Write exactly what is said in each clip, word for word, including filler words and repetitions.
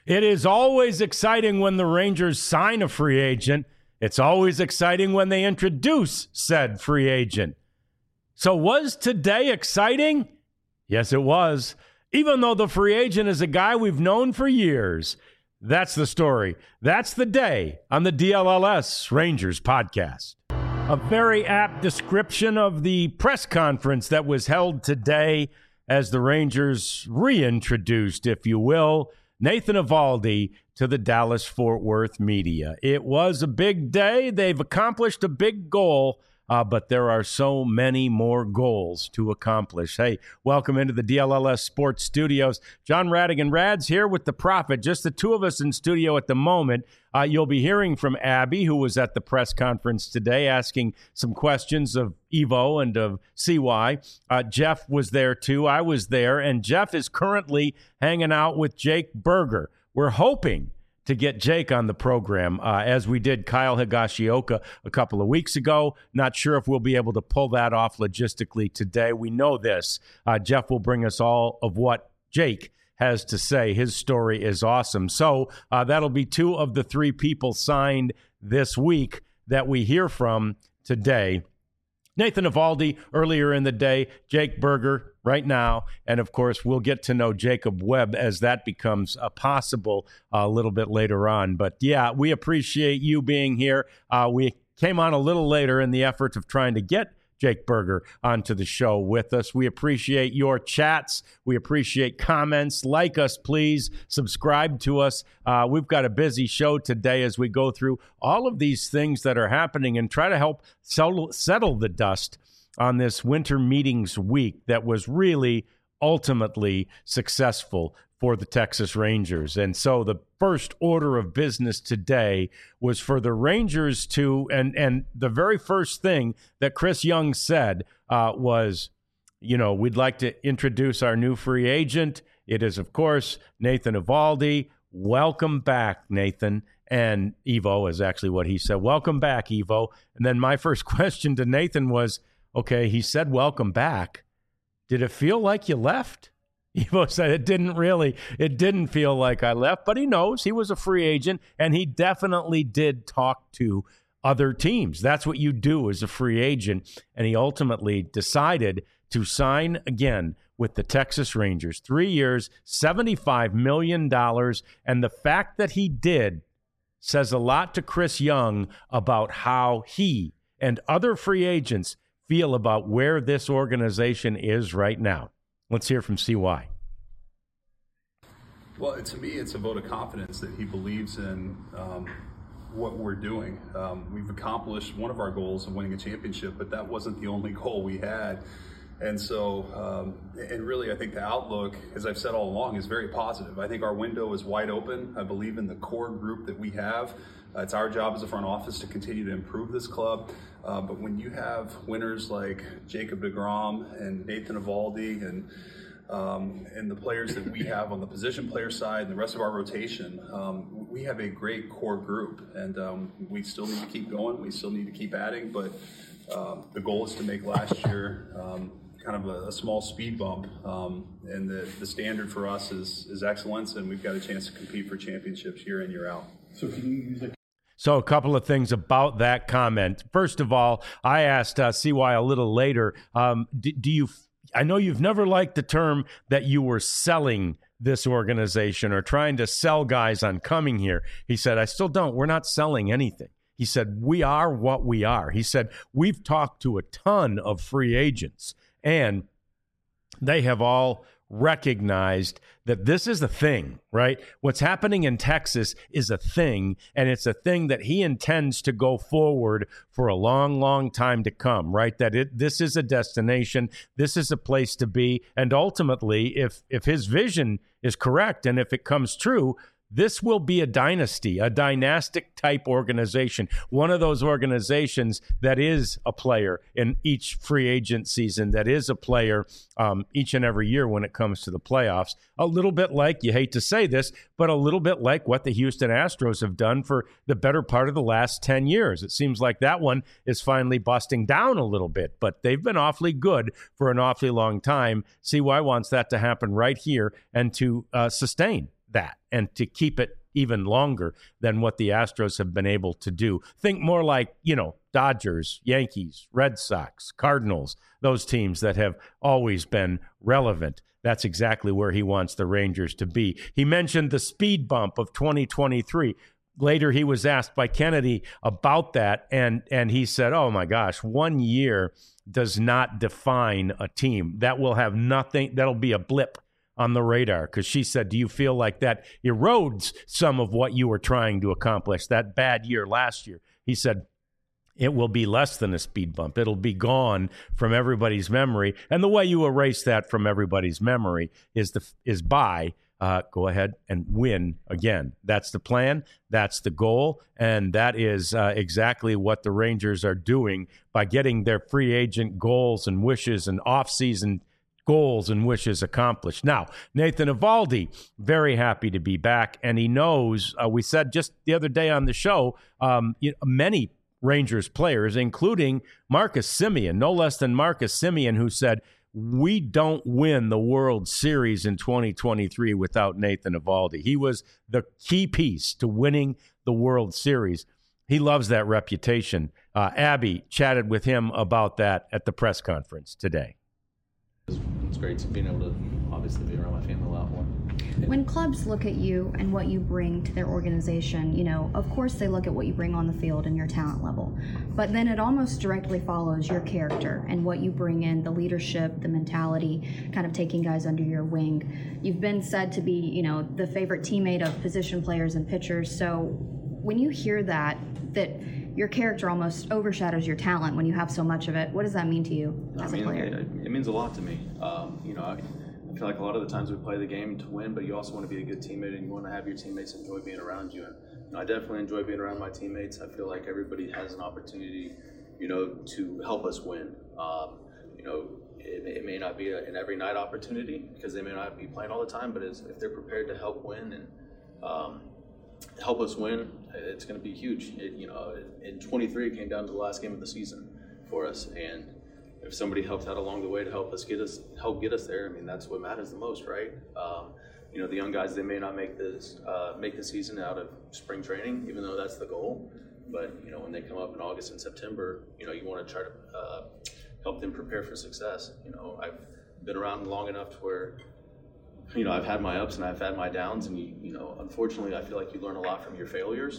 It is always exciting when the Rangers sign a free agent. It's always exciting when they introduce said free agent. So was today exciting? Yes, it was. Even though the free agent is a guy we've known for years. That's the story. That's the day on the D L L S Rangers podcast. A very apt description of the press conference that was held today as the Rangers reintroduced, if you will, Nathan Eovaldi to the Dallas-Fort Worth media. It was a big day. They've accomplished a big goal, uh, but there are so many more goals to accomplish. Hey, welcome into the D L L S Sports Studios. John Radigan Rads here with the Prophet. Just the two of us in studio at the moment. Uh, you'll be hearing from Abby, who was at the press conference today, asking some questions of Evo and of C Y. Uh, Jeff was there, too. I was there. And Jeff is currently hanging out with Jake Burger. We're hoping to get Jake on the program, uh, as we did Kyle Higashioka a couple of weeks ago. Not sure if we'll be able to pull that off logistically today. We know this. Uh, Jeff will bring us all of what Jake has to say. His story is awesome. So uh, that'll be two of the three people signed this week that we hear from today. Nathan Eovaldi earlier in the day, Jake Burger right now, and of course we'll get to know Jacob Webb as that becomes uh, possible uh, a little bit later on. But yeah, we appreciate you being here. Uh, we came on a little later in the effort of trying to get Jake Burger onto the show with us. We appreciate your chats. We appreciate comments. Like us, please. Subscribe to us. Uh, we've got a busy show today as we go through all of these things that are happening and try to help settle, settle the dust on this winter meetings week that was really ultimately successful for the Texas Rangers. And so the first order of business today was for the Rangers to, and and the very first thing that Chris Young said uh, was, you know, we'd like to introduce our new free agent. It is, of course, Nathan Eovaldi. Welcome back, Nathan. And Evo is actually what he said. Welcome back, Evo. And then my first question to Nathan was, okay, he said welcome back. Did it feel like you left? Evo said it didn't really, it didn't feel like I left, but he knows he was a free agent, and he definitely did talk to other teams. That's what you do as a free agent, and he ultimately decided to sign again with the Texas Rangers. Three years, seventy-five million dollars, and the fact that he did says a lot to Chris Young about how he and other free agents feel about where this organization is right now. Let's hear from C Y. Well, to me, it's a vote of confidence that he believes in um, what we're doing. Um, we've accomplished one of our goals of winning a championship, but that wasn't the only goal we had. And so, um, and really, I think the outlook, as I've said all along, is very positive. I think our window is wide open. I believe in the core group that we have. Uh, it's our job as a front office to continue to improve this club. Uh, but when you have winners like Jacob deGrom and Nathan Eovaldi and um, and the players that we have on the position player side and the rest of our rotation, um, we have a great core group. And um, we still need to keep going. We still need to keep adding. But um, the goal is to make last year um, kind of a, a small speed bump. Um, and the, the standard for us is, is excellence, and we've got a chance to compete for championships year in, year out. So can you use it? So a couple of things about that comment. First of all, I asked uh, C Y a little later, um, do, do you, I know you've never liked the term that you were selling this organization or trying to sell guys on coming here. He said, I still don't. We're not selling anything. He said, we are what we are. He said, we've talked to a ton of free agents, and they have all recognized that this is a thing, right? What's happening in Texas is a thing, and it's a thing that he intends to go forward for a long, long time to come, right? That it this is a destination, this is a place to be, and ultimately, if if his vision is correct and if it comes true, this will be a dynasty, a dynastic type organization, one of those organizations that is a player in each free agent season, that is a player um, each and every year when it comes to the playoffs. A little bit like, you hate to say this, but a little bit like what the Houston Astros have done for the better part of the last ten years. It seems like that one is finally busting down a little bit, but they've been awfully good for an awfully long time. C Y wants that to happen right here and to uh, sustain that and to keep it even longer than what the Astros have been able to do. Think more like, you know, Dodgers, Yankees, Red Sox, Cardinals, those teams that have always been relevant. That's exactly where he wants the Rangers to be. He mentioned the speed bump of twenty twenty-three. Later, he was asked by Kennedy about that, and and he said, oh, my gosh, one year does not define a team. That will have nothing. That'll be a blip on the radar, because she said, do you feel like that erodes some of what you were trying to accomplish, that bad year last year? He said, it will be less than a speed bump. It'll be gone from everybody's memory. And the way you erase that from everybody's memory is the is by uh, go ahead and win again. That's the plan. That's the goal. And that is uh, exactly what the Rangers are doing by getting their free agent goals and wishes and offseason goals and wishes accomplished. Now, Nathan Eovaldi, very happy to be back. And he knows, uh, we said just the other day on the show, um, you know, many Rangers players, including Marcus Semien, no less than Marcus Semien, who said, we don't win the World Series in twenty twenty-three without Nathan Eovaldi. He was the key piece to winning the World Series. He loves that reputation. Uh, Abby chatted with him about that at the press conference today. It's great being able to obviously be around my family a lot more. When clubs look at you and what you bring to their organization, you know, of course they look at what you bring on the field and your talent level, but then it almost directly follows your character and what you bring in, the leadership, the mentality, kind of taking guys under your wing. You've been said to be, you know, the favorite teammate of position players and pitchers. So when you hear that, that your character almost overshadows your talent when you have so much of it, what does that mean to you as I mean, a player? It, it means a lot to me. Um, you know, I, I feel like a lot of the times we play the game to win, but you also want to be a good teammate and you want to have your teammates enjoy being around you. And you know, I definitely enjoy being around my teammates. I feel like everybody has an opportunity, you know, to help us win. Um, you know, it, it may not be a, an every night opportunity because they may not be playing all the time, but it's, if they're prepared to help win and um, help us win, it's going to be huge. It, you know, in twenty-three, it came down to the last game of the season for us, and if somebody helped out along the way to help us get us help get us there, I mean, that's what matters the most, right? Um, you know, the young guys, they may not make this uh, make the season out of spring training, even though that's the goal. But you know, when they come up in August and September, you know, you want to try to uh, help them prepare for success. You know, I've been around long enough to where, you know, I've had my ups and I've had my downs, and you, you know, unfortunately, I feel like you learn a lot from your failures.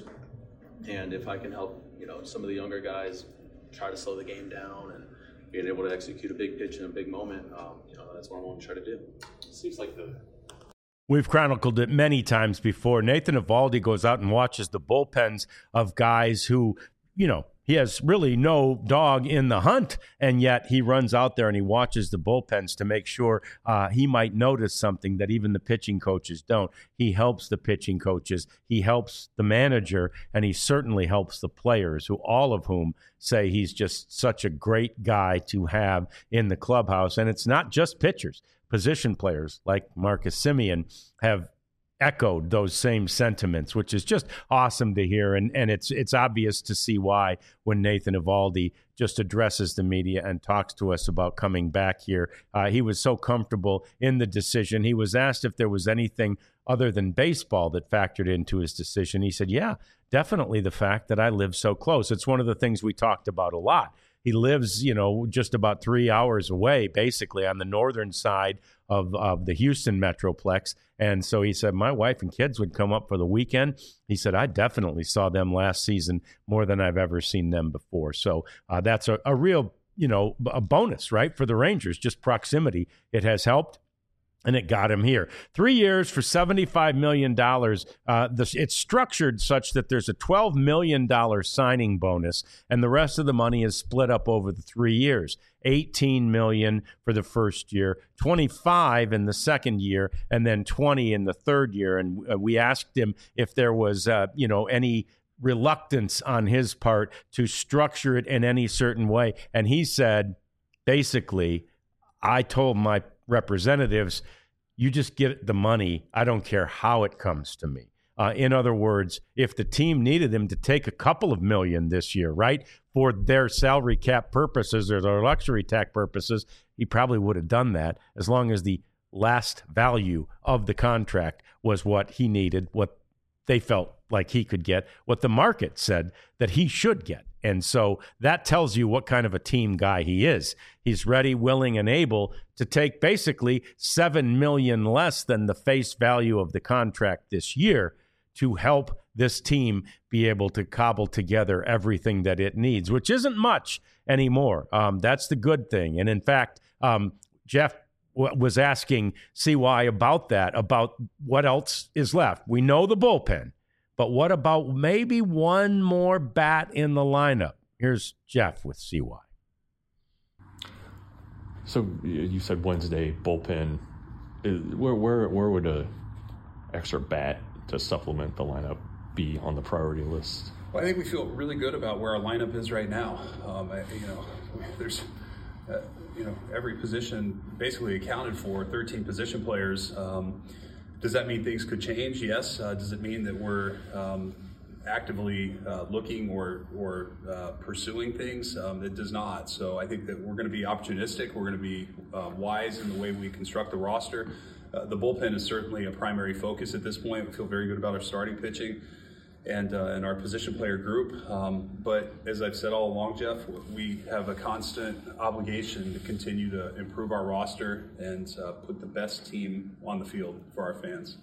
And if I can help, you know, some of the younger guys try to slow the game down and being able to execute a big pitch in a big moment, um, you know, that's what I want to try to do. It seems like the. We've chronicled it many times before. Nathan Eovaldi goes out and watches the bullpens of guys who, you know, he has really no dog in the hunt, and yet he runs out there and he watches the bullpens to make sure uh, he might notice something that even the pitching coaches don't. He helps the pitching coaches, he helps the manager, and he certainly helps the players, who all of whom say he's just such a great guy to have in the clubhouse. And it's not just pitchers. Position players like Marcus Semien have echoed those same sentiments, which is just awesome to hear. And and it's it's obvious to see why when Nathan Eovaldi just addresses the media and talks to us about coming back here. Uh, he was so comfortable in the decision. He was asked if there was anything other than baseball that factored into his decision. He said, yeah, definitely the fact that I live so close. It's one of the things we talked about a lot. He lives, you know, just about three hours away, basically, on the northern side of, of the Houston Metroplex. And so he said, my wife and kids would come up for the weekend. He said, I definitely saw them last season more than I've ever seen them before. So uh, that's a, a real, you know, a bonus, right, for the Rangers. Just proximity. It has helped. And it got him here. Three years for seventy-five million dollars. Uh, the, it's structured such that there's a twelve million dollars signing bonus, and the rest of the money is split up over the three years. eighteen million dollars for the first year, twenty-five in the second year, and then twenty in the third year. And uh, we asked him if there was, uh, you know, any reluctance on his part to structure it in any certain way. And he said, basically, I told my representatives, you just get the money. I don't care how it comes to me. Uh, in other words, if the team needed him to take a couple of million this year, right, for their salary cap purposes or their luxury tax purposes, he probably would have done that as long as the last value of the contract was what he needed, what they felt like he could get, what the market said that he should get. And so that tells you what kind of a team guy he is. He's ready, willing, and able to take basically seven million dollars less than the face value of the contract this year to help this team be able to cobble together everything that it needs, which isn't much anymore. Um, that's the good thing. And in fact, um, Jeff w- was asking C Y about that, about what else is left. We know the bullpen. But what about maybe one more bat in the lineup? Here's Jeff with C Y. So you said Wednesday bullpen. Where where where would a extra bat to supplement the lineup be on the priority list? Well, I think we feel really good about where our lineup is right now. Um, I, you know, there's uh, you know every position basically accounted for. thirteen position players. Um, Does that mean things could change? Yes. Uh, does it mean that we're um, actively uh, looking or or uh, pursuing things? Um, it does not. So I think that we're going to be opportunistic. We're going to be uh, wise in the way we construct the roster. Uh, the bullpen is certainly a primary focus at this point. We feel very good about our starting pitching and uh, and our position player group. Um, but as I've said all along, Jeff, we have a constant obligation to continue to improve our roster and uh, put the best team on the field for our fans.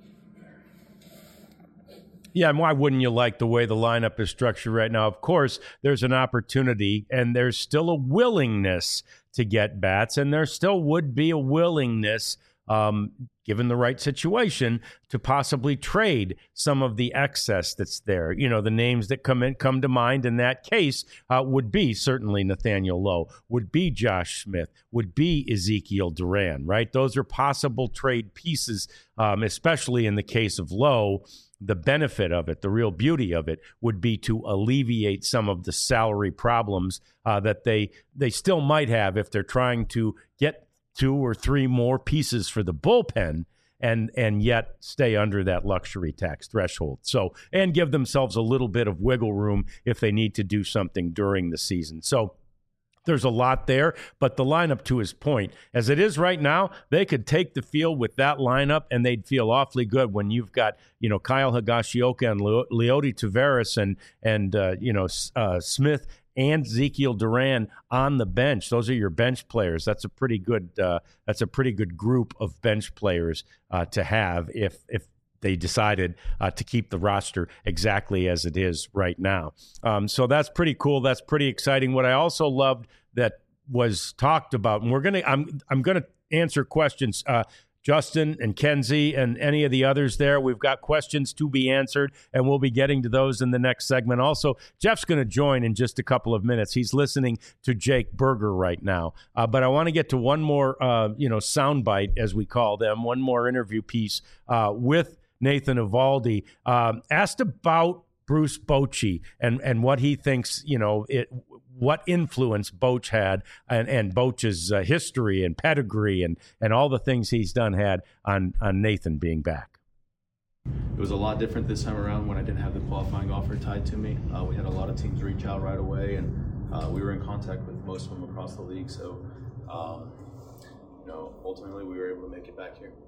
Yeah, and why wouldn't you like the way the lineup is structured right now? Of course, there's an opportunity, and there's still a willingness to get bats, and there still would be a willingness, um, given the right situation, to possibly trade some of the excess that's there. You know, the names that come in come to mind in that case uh, would be certainly Nathaniel Lowe, would be Josh Smith, would be Ezekiel Duran, right? Those are possible trade pieces, um, especially in the case of Lowe. The benefit of it, the real beauty of it, would be to alleviate some of the salary problems uh, that they they still might have if they're trying to get two or three more pieces for the bullpen and and yet stay under that luxury tax threshold. So, and give themselves a little bit of wiggle room if they need to do something during the season. So there's a lot there, but the lineup, to his point, as it is right now, they could take the field with that lineup and they'd feel awfully good when you've got, you know, Kyle Higashioka and Le- Leody Taveras and, and uh, you know, uh, Smith and Ezekiel Duran on the bench. Those are your bench players. That's a pretty good. Uh, that's a pretty good group of bench players uh, to have if if they decided uh, to keep the roster exactly as it is right now. Um, so that's pretty cool. That's pretty exciting. What I also loved that was talked about, and we're gonna. I'm I'm gonna answer questions. Uh, Justin and Kenzie and any of the others there. We've got questions to be answered, and we'll be getting to those in the next segment. Also, Jeff's going to join in just a couple of minutes. He's listening to Jake Burger right now. Uh, but I want to get to one more, uh, you know, soundbite, as we call them, one more interview piece uh, with Nathan Eovaldi. Um, asked about Bruce Bochy and, and what he thinks, you know, it what influence Boch had and, and Boch's uh, history and pedigree and, and all the things he's done had on, on Nathan being back. It was a lot different this time around when I didn't have the qualifying offer tied to me. Uh, we had a lot of teams reach out right away, and uh, we were in contact with most of them across the league. So, um, you know, ultimately we were able to make it back here.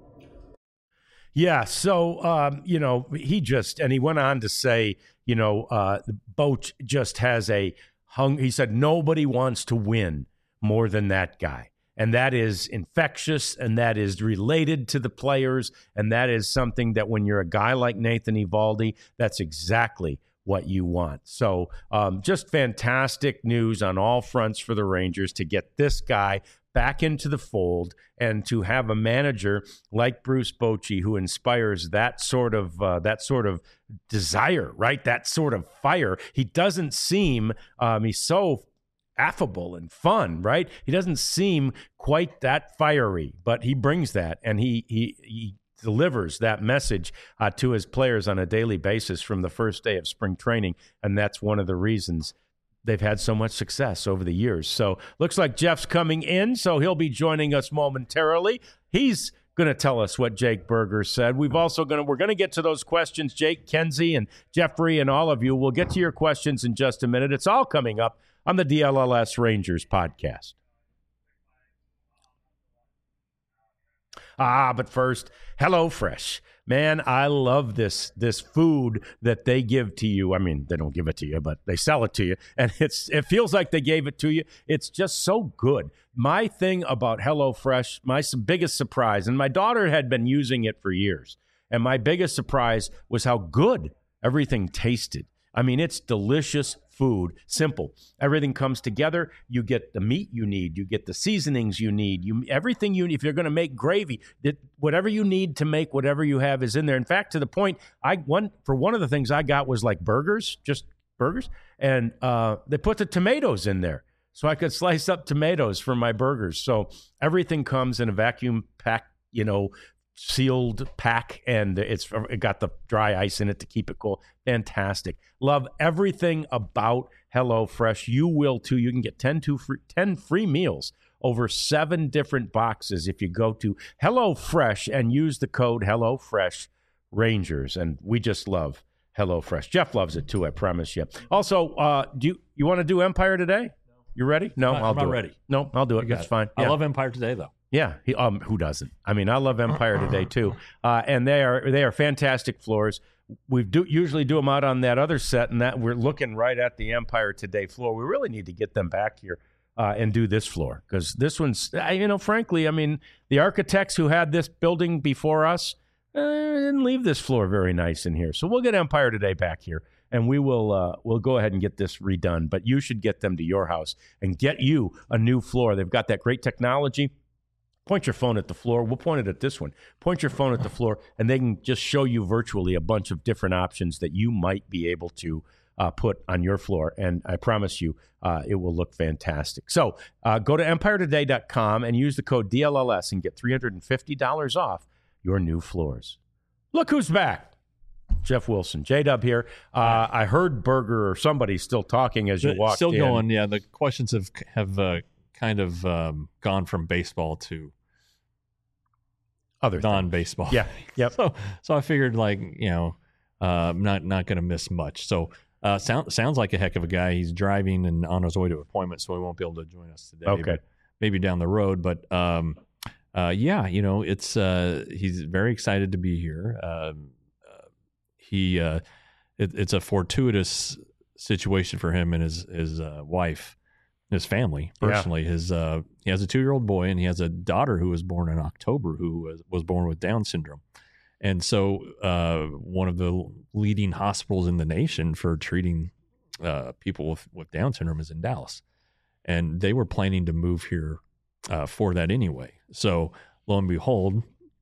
Yeah, so, um, you know, he just, and he went on to say, you know, uh, Boch just has a hung, he said, nobody wants to win more than that guy. And that is infectious, and that is related to the players, and that is something that when you're a guy like Nathan Eovaldi, that's exactly what you want. So um, just fantastic news on all fronts for the Rangers to get this guy back into the fold and to have a manager like Bruce Bochy who inspires that sort of uh, that sort of desire, right? That sort of fire. He doesn't seem um, he's so affable and fun, right? He doesn't seem quite that fiery, but he brings that, and he he he delivers that message uh, to his players on a daily basis from the first day of spring training, and that's one of the reasons they've had so much success over the years. So looks like Jeff's coming in, so he'll be joining us momentarily. He's going to tell us what Jake Burger said. We've also going to we're going to get to those questions, Jake, Kenzie, and Jeffrey, and all of you. We'll get to your questions in just a minute. It's all coming up on the D L L S Rangers podcast. Ah, but first, HelloFresh. Man, I love this this food that they give to you. I mean, they don't give it to you, but they sell it to you. And it's it feels like they gave it to you. It's just so good. My thing about HelloFresh, my biggest surprise, and my daughter had been using it for years, and my biggest surprise was how good everything tasted. I mean, it's delicious food, simple. Everything comes together. You get the meat you need. You get the seasonings you need. You everything you need. If you're going to make gravy, that whatever you need to make whatever you have is in there. In fact, to the point, I one for one of the things I got was like burgers, just burgers, and uh, they put the tomatoes in there, so I could slice up tomatoes for my burgers. So everything comes in a vacuum pack, you know, sealed pack, and it's it got the dry ice in it to keep it cool. Fantastic. Love everything about HelloFresh. You will too. You can get ten, two free, ten free meals over seven different boxes if you go to HelloFresh and use the code HelloFresh Rangers. And we just love HelloFresh. Jeff loves it too, I promise you. Also, uh, do you, you want to do Empire today? You ready? No, I'm I'll not do ready. it. No, I'll do it. That's it. fine. I Yeah. love Empire Today, though. Yeah, he, um, who doesn't? I mean, I love Empire Today too, uh, and they are they are fantastic floors. We do usually do them out on that other set, and that we're looking right at the Empire Today floor. We really need to get them back here uh, and do this floor, because this one's, you know, frankly, I mean, the architects who had this building before us uh, didn't leave this floor very nice in here. So we'll get Empire Today back here, and we will uh, we'll go ahead and get this redone. But you should get them to your house and get you a new floor. They've got that great technology. Point your phone at the floor. We'll point it at this one. Point your phone at the floor, and they can just show you virtually a bunch of different options that you might be able to uh, put on your floor. And I promise you, uh, it will look fantastic. So uh, go to empire today dot com and use the code D L L S and get three hundred fifty dollars off your new floors. Look who's back. Jeff Wilson. J-Dub here. Uh, I heard Berger or somebody still talking as you The- walked Still in. going, yeah. The questions have have uh, kind of um, gone from baseball to Other things. non-baseball. Yeah. Yep. So, so I figured, like, you know, uh, I'm not not going to miss much. So, uh, sound, sounds like a heck of a guy. He's driving and on his way to an appointment, so he won't be able to join us today. Okay. but maybe down the road, but um, uh, yeah, you know, it's uh, he's very excited to be here. Um, uh, he, uh, it, it's a fortuitous situation for him and his his uh, wife. His family, personally, yeah. his uh, he has a two-year-old boy and he has a daughter who was born in October who was, was born with Down syndrome, and so uh, one of the leading hospitals in the nation for treating uh, people with, with Down syndrome is in Dallas, and they were planning to move here uh, for that anyway. So lo and behold,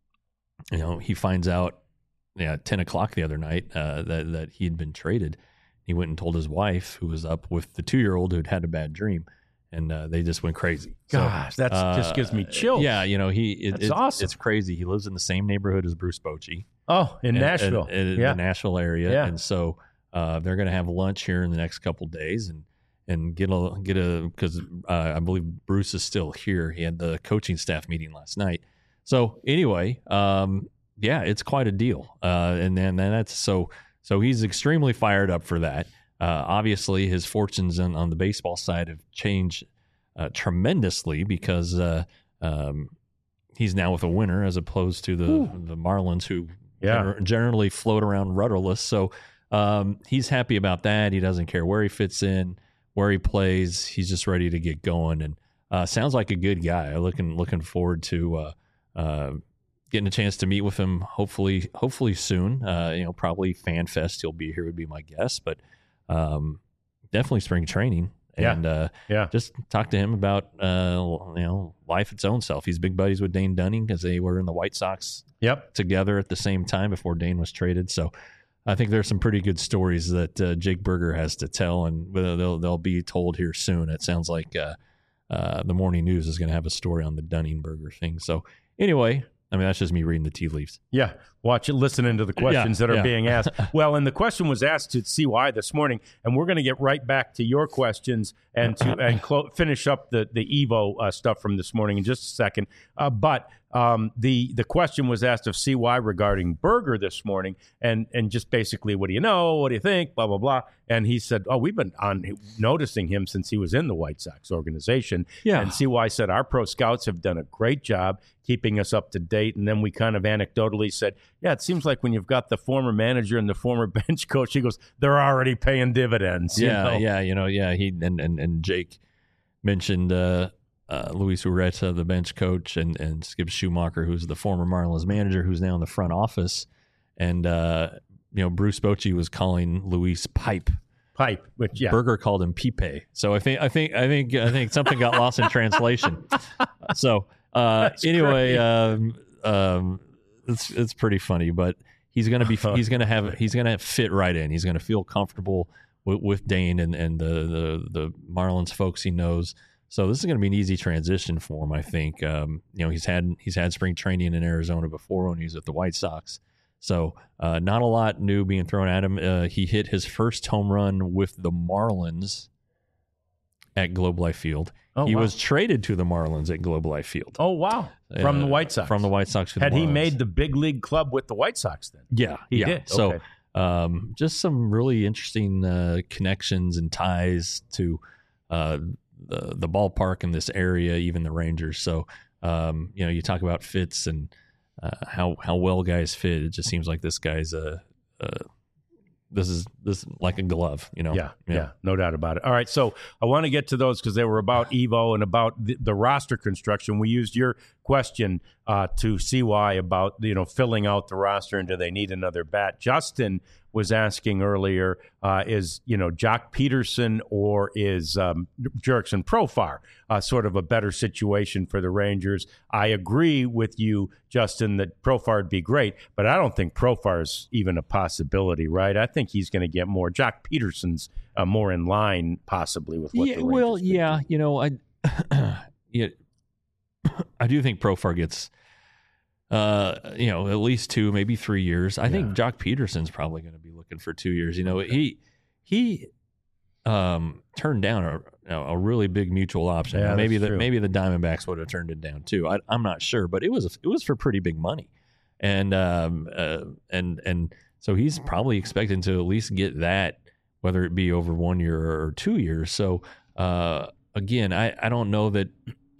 you know, he finds out yeah, at ten o'clock the other night uh, that that he had been traded. He went and told his wife, who was up with the two-year-old who'd had a bad dream, and uh, they just went crazy. Gosh, so, that uh, just gives me chills. Yeah, you know, he it, That's it, awesome. It's crazy. He lives in the same neighborhood as Bruce Bochy. Oh, in and, Nashville. and, and yeah. in the Nashville area. Yeah. And so uh, they're going to have lunch here in the next couple of days and and get a get a because uh, I believe Bruce is still here. He had the coaching staff meeting last night. So anyway, um, yeah, it's quite a deal. Uh, and then and that's so so he's extremely fired up for that. Uh, obviously, his fortunes on, on the baseball side have changed uh, tremendously because uh, um, he's now with a winner as opposed to the Ooh. the Marlins, who yeah. gener- generally float around rudderless. So um, he's happy about that. He doesn't care where he fits in, where he plays. He's just ready to get going, and uh, sounds like a good guy. Looking looking forward to uh, uh, getting a chance to meet with him. Hopefully, hopefully soon. Uh, you know, probably Fan Fest. He'll be here, would be my guess, but. Um, definitely spring training, and yeah. Uh, yeah, just talk to him about uh, you know, life its own self. He's big buddies with Dane Dunning because they were in the White Sox yep. together at the same time before Dane was traded. So I think there's some pretty good stories that uh, Jake Berger has to tell, and they'll they'll be told here soon. It sounds like uh, uh, the Morning News is going to have a story on the Dunning Berger thing. So anyway. I mean, that's just me reading the tea leaves. Yeah, watch it, listening to the questions yeah, that are yeah. being asked. Well, and the question was asked to C Y this morning, and we're going to get right back to your questions and to and clo- finish up the the Evo uh, stuff from this morning in just a second. Uh, but Um, the the question was asked of C Y regarding Berger this morning, and and just basically, what do you know? What do you think? Blah blah blah. And he said, "Oh, we've been on noticing him since he was in the White Sox organization." Yeah. And C Y said, "Our pro scouts have done a great job keeping us up to date." And then we kind of anecdotally said, "Yeah, it seems like when you've got the former manager and the former bench coach," he goes, "they're already paying dividends." you Yeah, know? yeah, you know, yeah. He and and, and Jake mentioned uh, uh, Luis Ureta, the bench coach, and and Skip Schumacher, who's the former Marlins manager, who's now in the front office, and uh, you know, Bruce Bochy was calling Luis Pipe. Pipe, which yeah, Berger called him Pipe. So I think I think I think I think something got lost in translation. So uh, anyway, um, um, it's it's pretty funny, but he's gonna be he's gonna have he's gonna fit right in. He's gonna feel comfortable with, with Dane and and the, the the Marlins folks he knows. So this is gonna be an easy transition for him, I think. Um, you know, he's had he's had spring training in Arizona before when he was at the White Sox. So uh, not a lot new being thrown at him. Uh, he hit his first home run with the Marlins at Globe Life Field. Oh, he wow. was traded to the Marlins at Globe Life Field. Oh wow, from Uh, the White Sox. From the White Sox. To the Had he Marlins. made the big league club with the White Sox then? Yeah, He yeah. did, So okay. um, just some really interesting uh, connections and ties to uh, the the ballpark in this area, even the Rangers. So um, you know, you talk about fits and uh, how how well guys fit. It just seems like this guy's a. Uh, this is this is like a glove, you know. Yeah, yeah, no doubt about it. All right, so I want to get to those because they were about Evo and about the, the roster construction. We used your question uh, to C Y about, you know, filling out the roster and do they need another bat. Justin was asking earlier, uh, is, you know, Jock Peterson or is um, Jurickson Profar uh, sort of a better situation for the Rangers? I agree with you, Justin, that Profar would be great, but I don't think Profar is even a possibility, right? I think he's going to get more. Jock Peterson's uh, more in line possibly with what yeah, the Rangers well, could yeah, do. you know, I, yeah, I do think Profar gets, uh, you know, at least two, maybe three years. I Yeah. think Jock Peterson's probably going to be looking for two years. You know, he he um, turned down a a really big mutual option. Yeah, maybe that's the true. maybe the Diamondbacks would have turned it down too. I, I'm not sure, but it was it was for pretty big money, and um, uh, and and so he's probably expecting to at least get that, whether it be over one year or two years. So uh, again, I, I don't know that,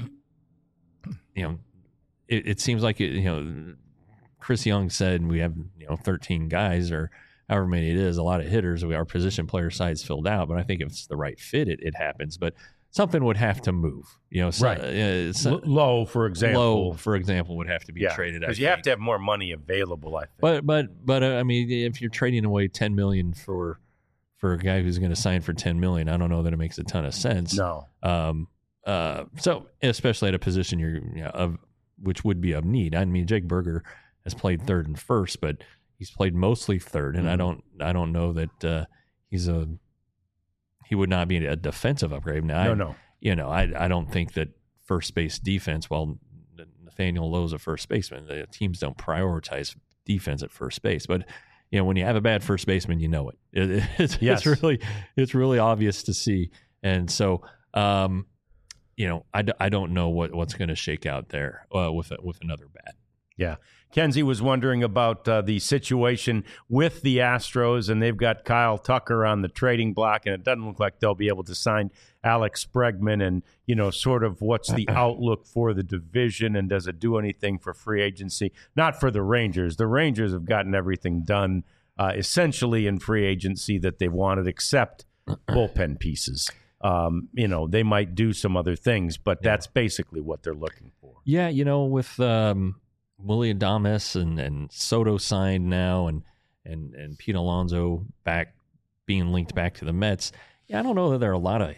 you know, it, it seems like, it, you know, Chris Young said we have, you know, thirteen guys or however many it is, a lot of hitters. We, our position player side's filled out, but I think if it's the right fit, it, it happens. But something would have to move, you know. So, Right. Uh, so, L- Low, for example. Low, for example, would have to be yeah, traded. because I you have think. to have more money available, I think. But but but uh, I mean, if you're trading away ten million for for a guy who's going to sign for ten million, I don't know that it makes a ton of sense. no. Um. Uh. So especially at a position you're you know, of which would be of need. I mean, Jake Berger has played third and first, but he's played mostly third, and Mhm. I don't I don't know that uh, he's a he would not be a defensive upgrade. Now, No, I, no. you know, I I don't think that first base defense. Well, Nathaniel Lowe's a first baseman. The teams don't prioritize defense at first base, but you know, when you have a bad first baseman, you know it. it it's, Yes. it's really it's really obvious to see, and so um, you know, I, d- I don't know what, what's going to shake out there uh, with a, with another bat. Yeah. Kenzie was wondering about uh, the situation with the Astros, and they've got Kyle Tucker on the trading block, and it doesn't look like they'll be able to sign Alex Bregman. And, you know, sort of what's the outlook for the division, and does it do anything for free agency? Not for the Rangers. The Rangers have gotten everything done uh, essentially in free agency that they wanted, except bullpen pieces. Um, you know, they might do some other things, but that's basically what they're looking for. Yeah, you know, with um, Willie Adames and, and Soto signed now, and and and Pete Alonso back being linked back to the Mets. Yeah, I don't know that there are a lot of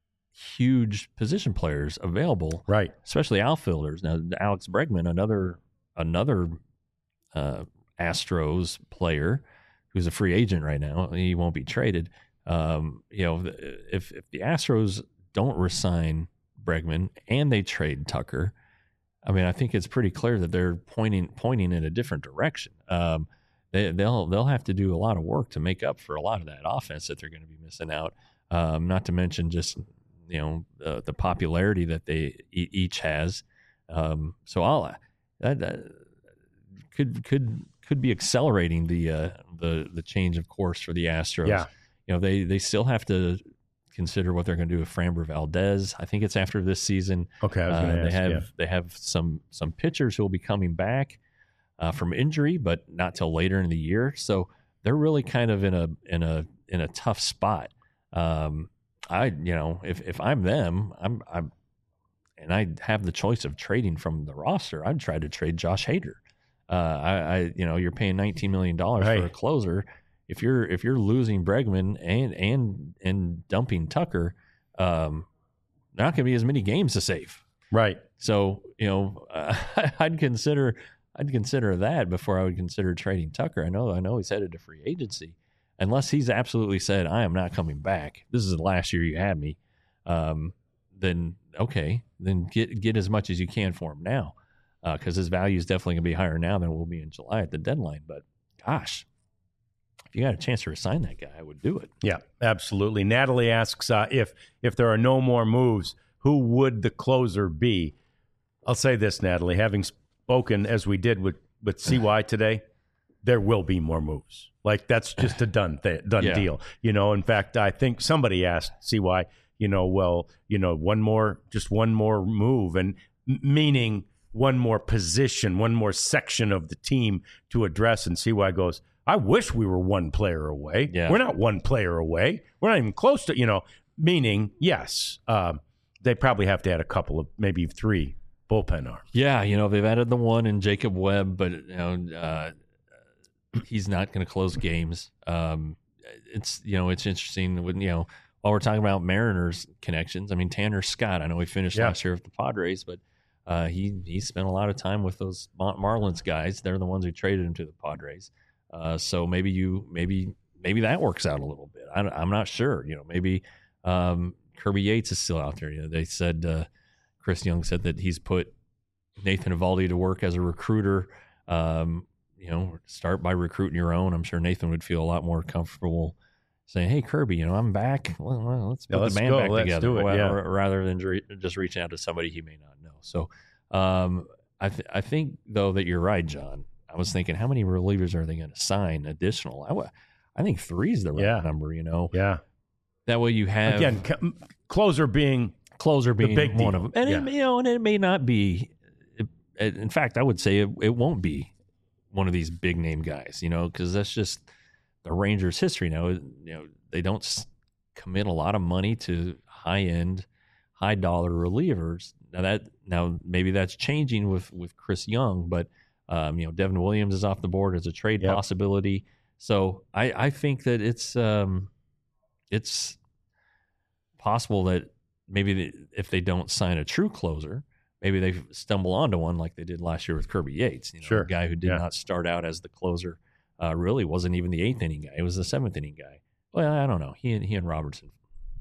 huge position players available, Right. especially outfielders. Now, Alex Bregman, another another uh, Astros player who's a free agent right now. He won't be traded. Um, you know, if if the Astros don't resign Bregman and they trade Tucker, I mean, I think it's pretty clear that they're pointing pointing in a different direction. Um, they, they'll they'll have to do a lot of work to make up for a lot of that offense that they're going to be missing out. Um, not to mention just you know uh, the popularity that they e- each has. Um, so I'll that, that could could could be accelerating the uh, the the change of course for the Astros. Yeah. You know, they they still have to consider what they're going to do with Framber Valdez. I think it's after this season. Okay, I was Uh, going to they ask. have yeah. they have some some pitchers who will be coming back uh, from injury, but not till later in the year. So they're really kind of in a in a in a tough spot. Um, I you know if if I'm them, I'm I'm and I have the choice of trading from the roster, I'd try to trade Josh Hader. Uh, I, I you know you're paying nineteen million dollars Right. for a closer. If you're if you're losing Bregman and and and dumping Tucker, um, there not going to be as many games to save. Right. So you know, uh, I'd consider I'd consider that before I would consider trading Tucker. I know I know he's headed to free agency, unless he's absolutely said I am not coming back. This is the last year you had me. Um, then okay, then get get as much as you can for him now, because uh, his value is definitely going to be higher now than it will be in July at the deadline. But gosh, if you got a chance to resign that guy, I would do it. Yeah, absolutely. Natalie asks uh, if if there are no more moves, who would the closer be? I'll say this, Natalie, having spoken as we did with, with C Y today, there will be more moves. Like, that's just a done th- done Yeah. deal. You know, in fact, I think somebody asked C Y, you know, well, you know, one more, just one more move, and m- meaning one more position, one more section of the team to address. And C Y goes, I wish we were one player away. Yeah. We're not one player away. We're not even close to, you know, meaning, yes, um, they probably have to add a couple of, maybe three bullpen arms. Yeah, you know, they've added the one in Jacob Webb, but you know, uh, he's not going to close games. Um, it's you know, it's interesting when you know while we're talking about Mariners connections. I mean, Tanner Scott. I know he finished Yeah. last year with the Padres, but uh, he he spent a lot of time with those Mar- Marlins guys. They're the ones who traded him to the Padres. Uh, so maybe you maybe maybe that works out a little bit. I, I'm not sure. You know, maybe um, Kirby Yates is still out there. You know, they said. Uh, Chris Young said that he's put Nathan Eovaldi to work as a recruiter. Um, you know, start by recruiting your own. I'm sure Nathan would feel a lot more comfortable saying, "Hey, Kirby, you know, I'm back. Well, well, let's Yeah, put let's the band go. back Let's together," do it, well, yeah. r- rather than re- just reaching out to somebody he may not know. So, um, I th- I think though that you're right, John. I was thinking, how many relievers are they going to sign additional? I, w- I think three is the right Yeah. number. You know, Yeah. that way you have Again, c- closer being closer being big one deal. of them, and Yeah. it, you know, and it may not be. It, it- in fact, I would say it, it won't be one of these big name guys, you know, because that's just the Rangers' history now. You know, they don't s- commit a lot of money to high end, high dollar relievers. Now that now maybe that's changing with with Chris Young, but um, you know, Devin Williams is off the board as a trade Yep. possibility. So I I think that it's um it's possible that maybe they, if they don't sign a true closer, maybe they stumble onto one like they did last year with Kirby Yates. You know, Sure. a guy who did Yeah. not start out as the closer, uh, really wasn't even the eighth inning guy. He was the seventh inning guy. Well, I don't know. He and he and Robertson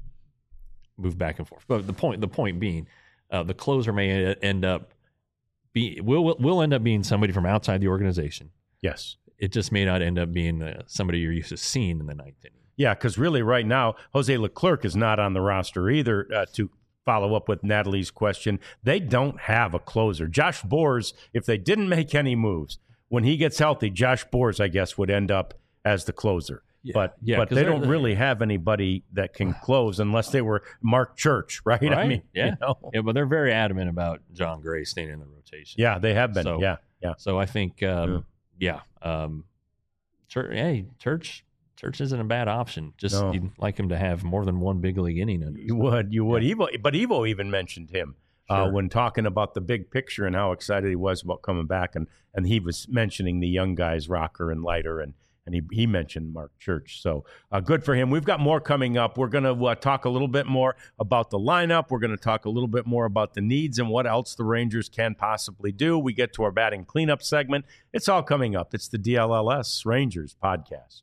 moved back and forth. But the point the point being, uh, the closer may end up be will will end up being somebody from outside the organization. yes. It just may not end up being uh, somebody you're used to seeing in the ninth inning. Yeah, because really right now, Jose Leclerc is not on the roster either. Uh, to follow up with Natalie's question, they don't have a closer. Josh Boers, if they didn't make any moves, when he gets healthy, Josh Boers, I guess, would end up as the closer. Yeah, but yeah, but 'cause they they're- don't really have anybody that can close unless they were Mark Church, right? I Right, mean, yeah. you know? Yeah, but they're very adamant about John Gray staying in the rotation. Yeah, they have been. So- yeah, yeah. So I think, um, yeah, um, Church, hey, Church, Church isn't a bad option. Just No. you'd like him to have more than one big league inning under his You belt. would, you would. Evo, but Evo even mentioned him uh, Sure. when talking about the big picture and how excited he was about coming back, and and he was mentioning the young guys, Rocker and Leiter, and and he he mentioned Mark Church. So uh, good for him. We've got more coming up. We're going to uh, talk a little bit more about the lineup. We're going to talk a little bit more about the needs and what else the Rangers can possibly do. We get to our batting cleanup segment. It's all coming up. It's the D L L S Rangers podcast.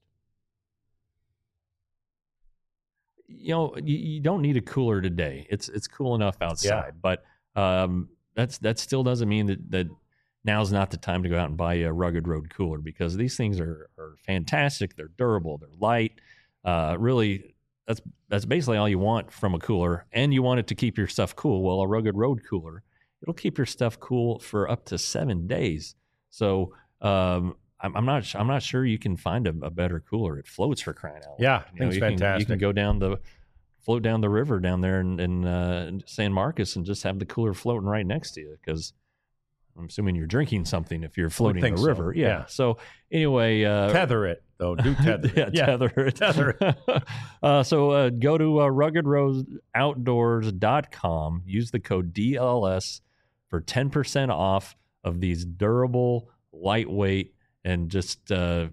You know, you, you don't need a cooler today. It's it's cool enough outside, but um, that's that still doesn't mean that that now's not the time to go out and buy a Rugged Road cooler, because these things are are fantastic. They're durable. They're light. Uh, really, that's that's basically all you want from a cooler, and you want it to keep your stuff cool. Well, a Rugged Road cooler it'll keep your stuff cool for up to seven days. So um, I'm, I'm not I'm not sure you can find a, a better cooler. It floats, for crying out loud. Yeah, you thing's you fantastic. Can, you can go down the float down the river down there in, in uh, San Marcos and just have the cooler floating right next to you, because I'm assuming you're drinking something if you're floating the think so, river. Yeah. yeah. So anyway, uh, Tether it though. Do tether. yeah, it. Yeah, tether it. tether it. uh, so uh, go to uh, rugged rose outdoors dot com. Use the code D L S for ten percent off of these durable, lightweight, and just uh,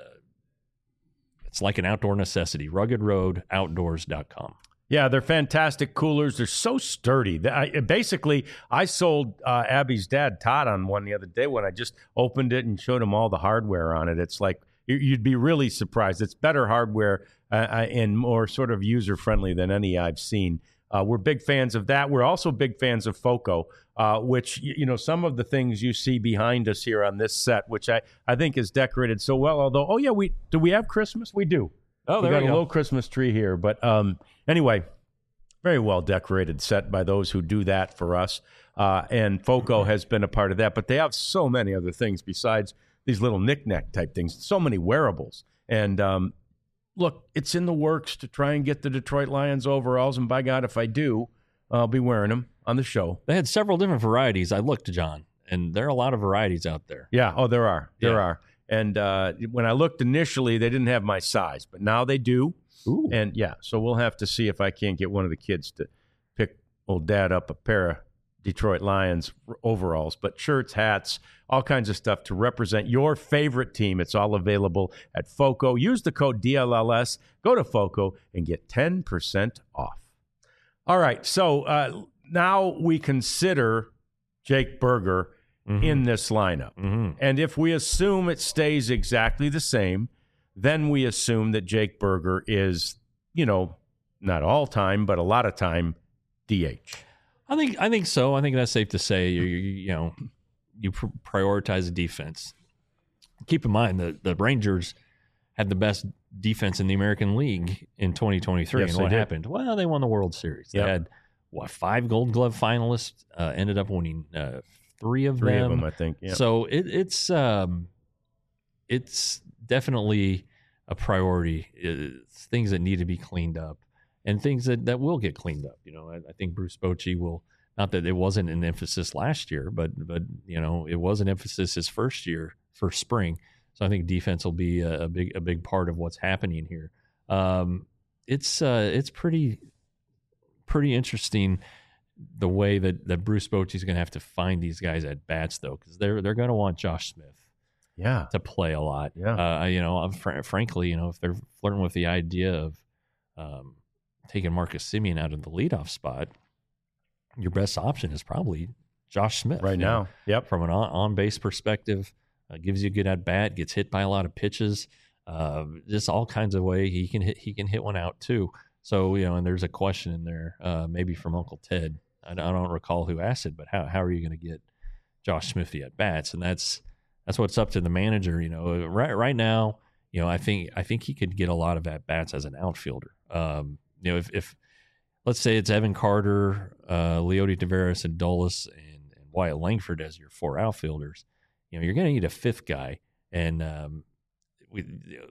it's like an outdoor necessity. rugged road outdoors dot com. Yeah, they're fantastic coolers. They're so sturdy. They- I, basically, I sold uh, Abby's dad, Todd, on one the other day when I just opened it and showed him all the hardware on it. It's like, you- you'd be really surprised. It's better hardware uh, uh, and more sort of user-friendly than any I've seen. Uh, we're big fans of that. We're also big fans of FOCO, uh, which, y- you know, some of the things you see behind us here on this set, which I, I think is decorated so well. Although, oh, yeah, we do we have Christmas? We do. Oh, we there got you a go. little Christmas tree here. But um, anyway, very well decorated set by those who do that for us. Uh, and FOCO has been a part of that. But they have so many other things besides these little knick-knack type things, so many wearables. And um, look, it's in the works to try and get the Detroit Lions overalls. And by God, if I do, I'll be wearing them on the show. They had several different varieties. I looked, John, and there are a lot of varieties out there. Yeah. Oh, there are. There Yeah. are. And uh, when I looked initially, they didn't have my size, but now they do. Ooh. And yeah, so we'll have to see if I can't get one of the kids to pick old dad up a pair of Detroit Lions overalls, but shirts, hats, all kinds of stuff to represent your favorite team. It's all available at FOCO. Use the code D L L S. Go to FOCO and get ten percent off. All right, so uh, now we consider Jake Burger Mhm. in this lineup. Mm-hmm. And if we assume it stays exactly the same, then we assume that Jake Burger is, you know, not all time, but a lot of time D H. I think I think so. I think that's safe to say. You you, you know, you pr- prioritize the defense. Keep in mind that the Rangers had the best defense in the American League in twenty twenty-three. Yes, and they what did. happened? Well, they won the World Series. They Yep. had what five Gold Glove finalists. Uh, ended up winning uh, three of Three them. of them, I think. Yeah. So it, it's um, it's definitely a priority. It's things that need to be cleaned up, and things that, that will get cleaned up. You know, I, I think Bruce Bochy will. Not that it wasn't an emphasis last year, but but you know, it was an emphasis his first year, first spring. So I think defense will be a, a big a big part of what's happening here. Um, it's uh, it's pretty pretty interesting the way that, that Bruce Bochy is going to have to find these guys at bats, though, because they're they're going to want Josh Smith yeah. to play a lot. Yeah. Uh, you know, I'm fr- frankly, you know, if they're flirting with the idea of um, taking Marcus Semien out of the leadoff spot, your best option is probably Josh Smith Right you know, now. Yep. from an on, on base perspective. Uh, gives you a good at bat, gets hit by a lot of pitches, uh, just all kinds of way he can hit. He can hit one out too. So you know, and there's a question in there, uh, maybe from Uncle Ted. I, I don't recall who asked it, but how how are you going to get Josh Smith the at bats? And that's that's what's up to the manager. You know, right right now, you know, I think I think he could get a lot of at bats as an outfielder. Um, you know, if, if let's say it's Evan Carter, uh, Leody Taveras, and Dulles, and, and Wyatt Langford as your four outfielders. You know, you're going to need a fifth guy, and um, we,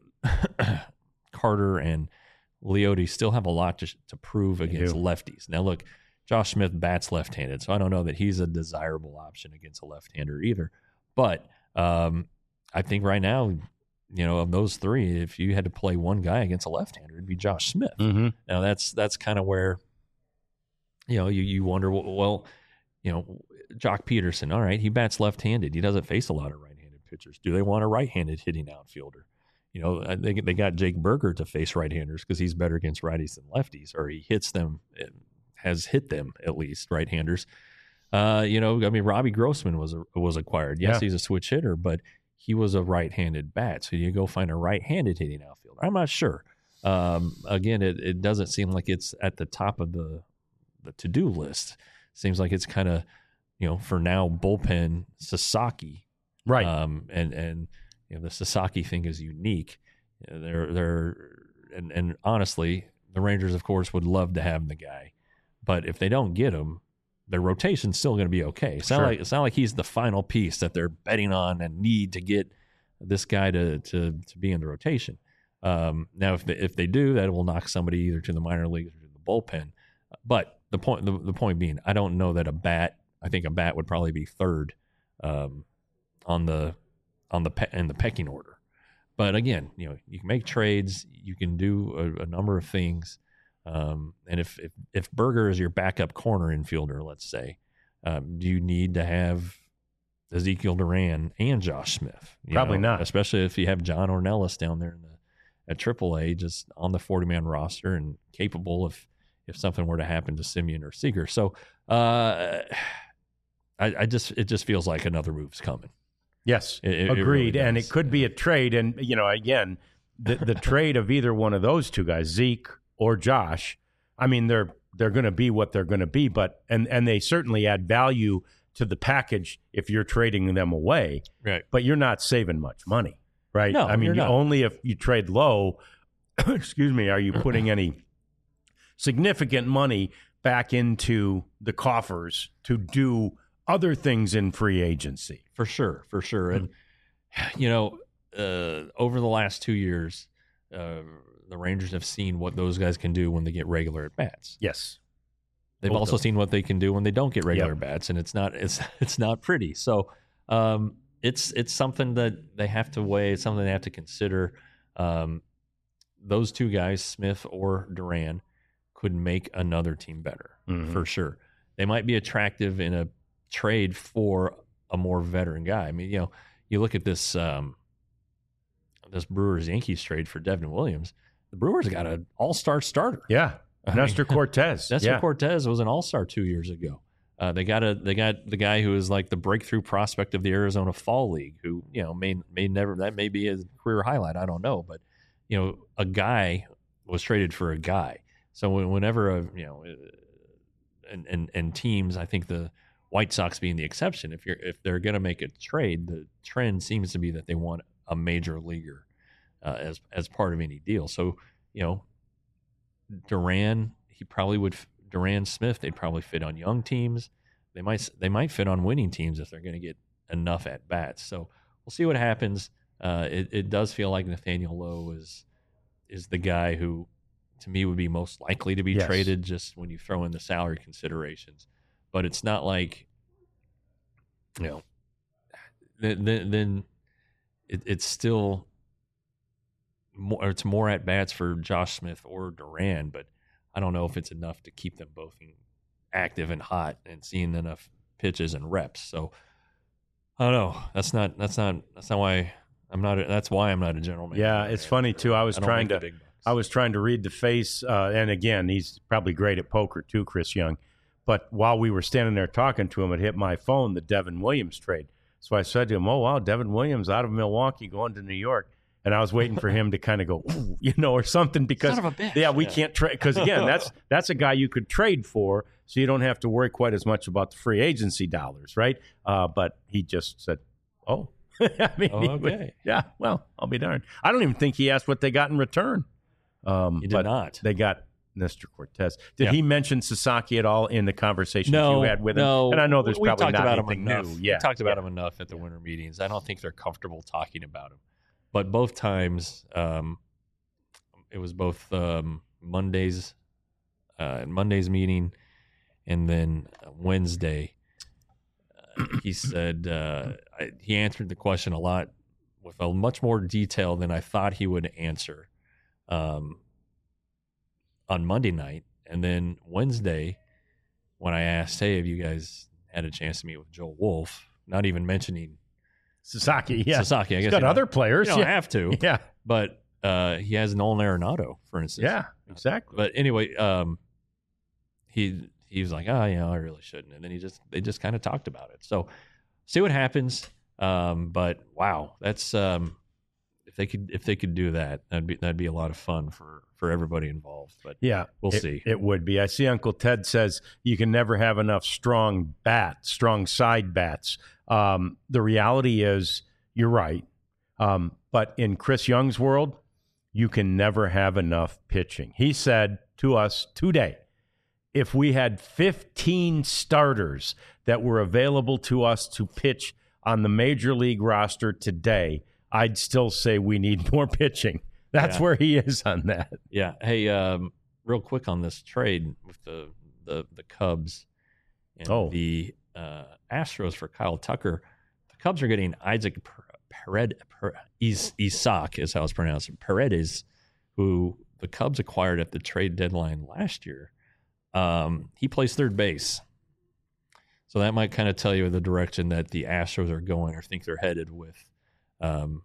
Carter and Leody still have a lot to, to prove against do. lefties. Now, look, Josh Smith bats left-handed, so I don't know that he's a desirable option against a left-hander either. But um, I think right now, you know, of those three, if you had to play one guy against a left-hander, it'd be Josh Smith. Mm-hmm. Now, that's that's kind of where, you know, you, you wonder, well, you know, Jock Peterson, all right, he bats left-handed. He doesn't face a lot of right-handed pitchers. Do they want a right-handed hitting outfielder? You know, they they got Jake Burger to face right-handers because he's better against righties than lefties, or he hits them, has hit them at least, right-handers. Uh, you know, I mean, Robbie Grossman was a, was acquired. Yes, Yeah. he's a switch hitter, but he was a right-handed bat. So you go find a right-handed hitting outfielder. I'm not sure. Um, again, it, it doesn't seem like it's at the top of the the to-do list. Seems like it's kind of, you know, for now, bullpen Sasaki. Right. Um, and, and, you know, the Sasaki thing is unique. You know, they're, they're, and, and honestly, the Rangers, of course, would love to have the guy. But if they don't get him, their rotation's still going to be okay. It's not Sure. like it's not like he's the final piece that they're betting on and need to get this guy to to to be in the rotation. Um, now, if they, if they do, that will knock somebody either to the minor leagues or to the bullpen. But the point the, the point being, I don't know that a bat. I think a bat would probably be third um, on the on the pe- in the pecking order. But again, you know, you can make trades, you can do a, a number of things. Um, and if, if if Berger is your backup corner infielder, let's say, um, do you need to have Ezekiel Duran and Josh Smith? You Probably know, not. especially if you have John Ornelas down there in the at triple A, just on the forty-man roster and capable if if something were to happen to Simeon or Seager. So uh, I, I just it just feels like another move's coming. Yes, It- it agreed. really and it does. could be a trade. And, you know, again, the, the trade of either one of those two guys, Zeke or Josh, I mean, they're they're going to be what they're going to be. But and, and they certainly add value to the package if you're trading them away. Right. But you're not saving much money, right? No, I mean, you're you, not. only if you trade low, excuse me, are you putting any significant money back into the coffers to do other things in free agency. For sure, for sure. And, you know, uh, over the last two years, uh, the Rangers have seen what those guys can do when they get regular at bats. Yes. They've Both also of them. seen what they can do when they don't get regular Yep. bats, and it's not it's it's not pretty. So um, it's it's something that they have to weigh. It's something they have to consider. Um, those two guys, Smith or Duran, could make another team better Mhm. for sure. They might be attractive in a trade for a more veteran guy. I mean, you know, you look at this um, this Brewers Yankees trade for Devin Williams. The Brewers got an all star starter. Yeah. I mean, Nestor Cortez. Nestor yeah. Cortez was an all star two years ago. Uh, they got a they got the guy who is like the breakthrough prospect of the Arizona Fall League, who you know may may never that may be his career highlight. I don't know, but you know, a guy was traded for a guy. So when- whenever a you know, uh, and and and teams, I think the White Sox being the exception, if you're if they're going to make a trade, the trend seems to be that they want a major leaguer uh, as as part of any deal. So you know, Duran, he probably would. Duran, Smith, they'd probably fit on young teams. They might they might fit on winning teams if they're going to get enough at bats. So we'll see what happens. Uh, it, it does feel like Nathaniel Lowe is is the guy who, to me, would be most likely to be Yes. traded. Just when you throw in the salary considerations, but it's not like you know. Then then, then it, it's still more. It's more at bats for Josh Smith or Duran, but I don't know if it's enough to keep them both active and hot and seeing enough pitches and reps. So I don't know. That's not. That's not. That's not why I'm not. A, that's why I'm not a general manager. Yeah, it's funny too. I was don't trying make to. the big bucks. I was trying to read the face, uh, and again, he's probably great at poker too, Chris Young. But while we were standing there talking to him, it hit my phone, the Devin Williams trade. So I said to him, "Oh wow, Devin Williams out of Milwaukee going to New York." And I was waiting for him to kind of go, ooh, you know, or something because, Son of a bitch. yeah, we Yeah. can't trade. Because, again, that's that's a guy you could trade for, so you don't have to worry quite as much about the free agency dollars, right? Uh, but he just said, oh. I mean, Oh, he would- okay. yeah, well, I'll be darned. I don't even think he asked what they got in return. Um, He did but not. They got Nestor Cortez. Did Yeah. he mention Sasaki at all in the conversations no, you had with him? no. And I know there's we probably talked not about him anything enough. new. Yeah, we talked about yeah. him enough at the winter meetings. I don't think they're comfortable talking about him. But both times, um, it was both um, Monday's uh, Monday's meeting, and then Wednesday. Uh, he said uh, I, he answered the question a lot with a much more detail than I thought he would answer um, on Monday night, and then Wednesday, when I asked, "Hey, have you guys had a chance to meet with Joel Wolf?" Not even mentioning Sasaki, yeah. Sasaki. I He's guess got you other don't- players. You don't yeah. have to, yeah, but uh, he has Nolan Arenado, for instance. yeah, exactly. But anyway, um, he he was like, "Oh, you know, I really shouldn't," and then he just they just kind of talked about it. So see what happens. Um, but wow, that's um, if they could if they could do that, that'd be that'd be a lot of fun for for everybody involved. But Yeah, We'll it- see. It would be. I see Uncle Ted says you can never have enough strong bats, strong side bats. Um, the reality is, you're right. Um, but in Chris Young's world, you can never have enough pitching. He said to us today, if we had fifteen starters that were available to us to pitch on the major league roster today, I'd still say we need more pitching. That's yeah. where he is on that. Yeah. Hey, um, real quick on this trade with the the, the Cubs and oh. the uh, Astros for Kyle Tucker. The Cubs are getting Isaac Paredes, Isaac is how it's pronounced, Paredes, who the Cubs acquired at the trade deadline last year. Um, he plays third base. So that might kind of tell you the direction that the Astros are going or think they're headed with um,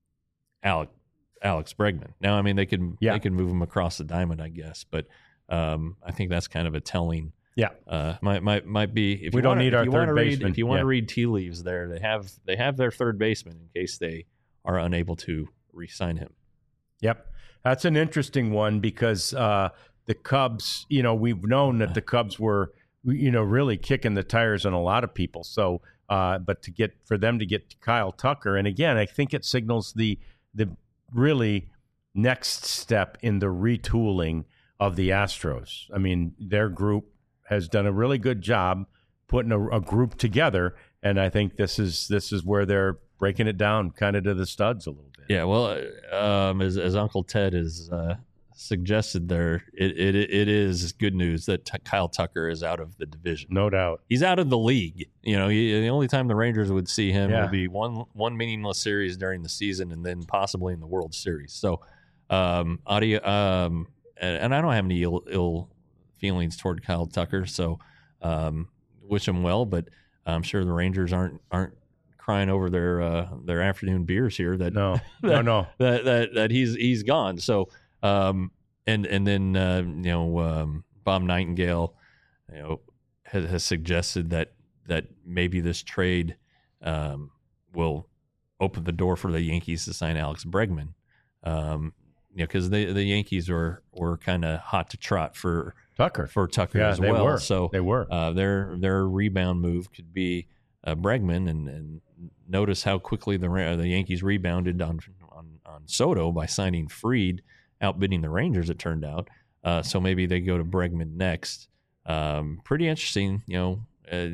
Alex, Alex Bregman. Now, I mean, they can yeah. they can move him across the diamond, I guess, but um, I think that's kind of a telling. Yeah, uh, might might might be. If we you don't wanna, need our third read, baseman. If you want yeah. to read tea leaves, there they have they have their third baseman in case they are unable to re-sign him. Yep, that's an interesting one because uh, the Cubs. You know, we've known that the Cubs were, you know, really kicking the tires on a lot of people. So, uh, but to get for them to get Kyle Tucker, and again, I think it signals the the really next step in the retooling of the Astros. I mean, their group has done a really good job putting a, a group together, and I think this is this is where they're breaking it down kind of to the studs a little bit. Yeah, well, um, as, as Uncle Ted has uh, suggested there, it, it it is good news that t- Kyle Tucker is out of the division. No doubt. He's out of the league. You know, he, the only time the Rangers would see him yeah. will be one one meaningless series during the season and then possibly in the World Series. So, um, audio, um, and, and I don't have any ill, ill feelings toward Kyle Tucker, so um, wish him well. But I'm sure the Rangers aren't aren't crying over their uh, their afternoon beers here. That no, that, no, no, that, that that he's he's gone. So um, and and then uh, you know um, Bob Nightingale, you know, has, has suggested that that maybe this trade um, will open the door for the Yankees to sign Alex Bregman. Um, you know, because the the Yankees were were kind of hot to trot for Tucker for Tucker yeah, as they well. Were. So they were uh, their their rebound move could be uh, Bregman, and, and notice how quickly the the Yankees rebounded on on, on Soto by signing Fried, outbidding the Rangers. It turned out, uh, so maybe they go to Bregman next. Um, pretty interesting, you know. Uh,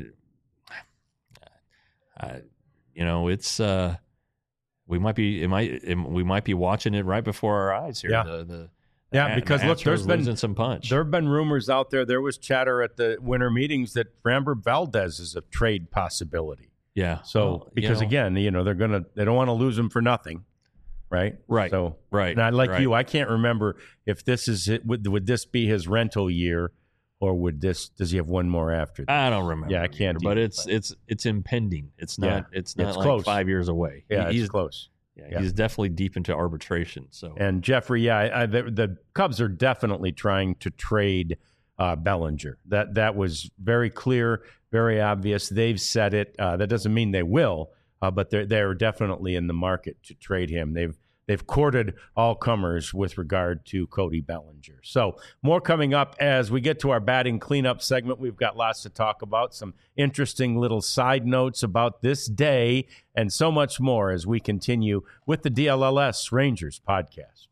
uh, you know, it's. Uh, We might be it might it, we might be watching it right before our eyes here. Yeah, the, the, yeah. the, because the look, there's been some punch. There have been rumors out there. There was chatter at the winter meetings that Framber Valdez is a trade possibility. Yeah. So well, because you know, again, you know, they're gonna they don't want to lose him for nothing, right? Right. So right. And I like right. you. I can't remember if this is it. Would, would this be his rental year, or would this? Does he have one more after that? I don't remember. Yeah, I can't. Either, but either, it's but. it's it's impending. It's not. Yeah, it's not it's like close. five years away. Yeah, he, it's close. Yeah, yeah, he's definitely deep into arbitration. So and Jeffrey, yeah, I, I, the, the Cubs are definitely trying to trade uh, Bellinger. That that was very clear, very obvious. They've said it. Uh, that doesn't mean they will, uh, but they're they're definitely in the market to trade him. They've they've courted all comers with regard to Cody Bellinger. So more coming up as we get to our batting cleanup segment. We've got lots to talk about, some interesting little side notes about this day, and so much more as we continue with the D L L S Rangers podcast.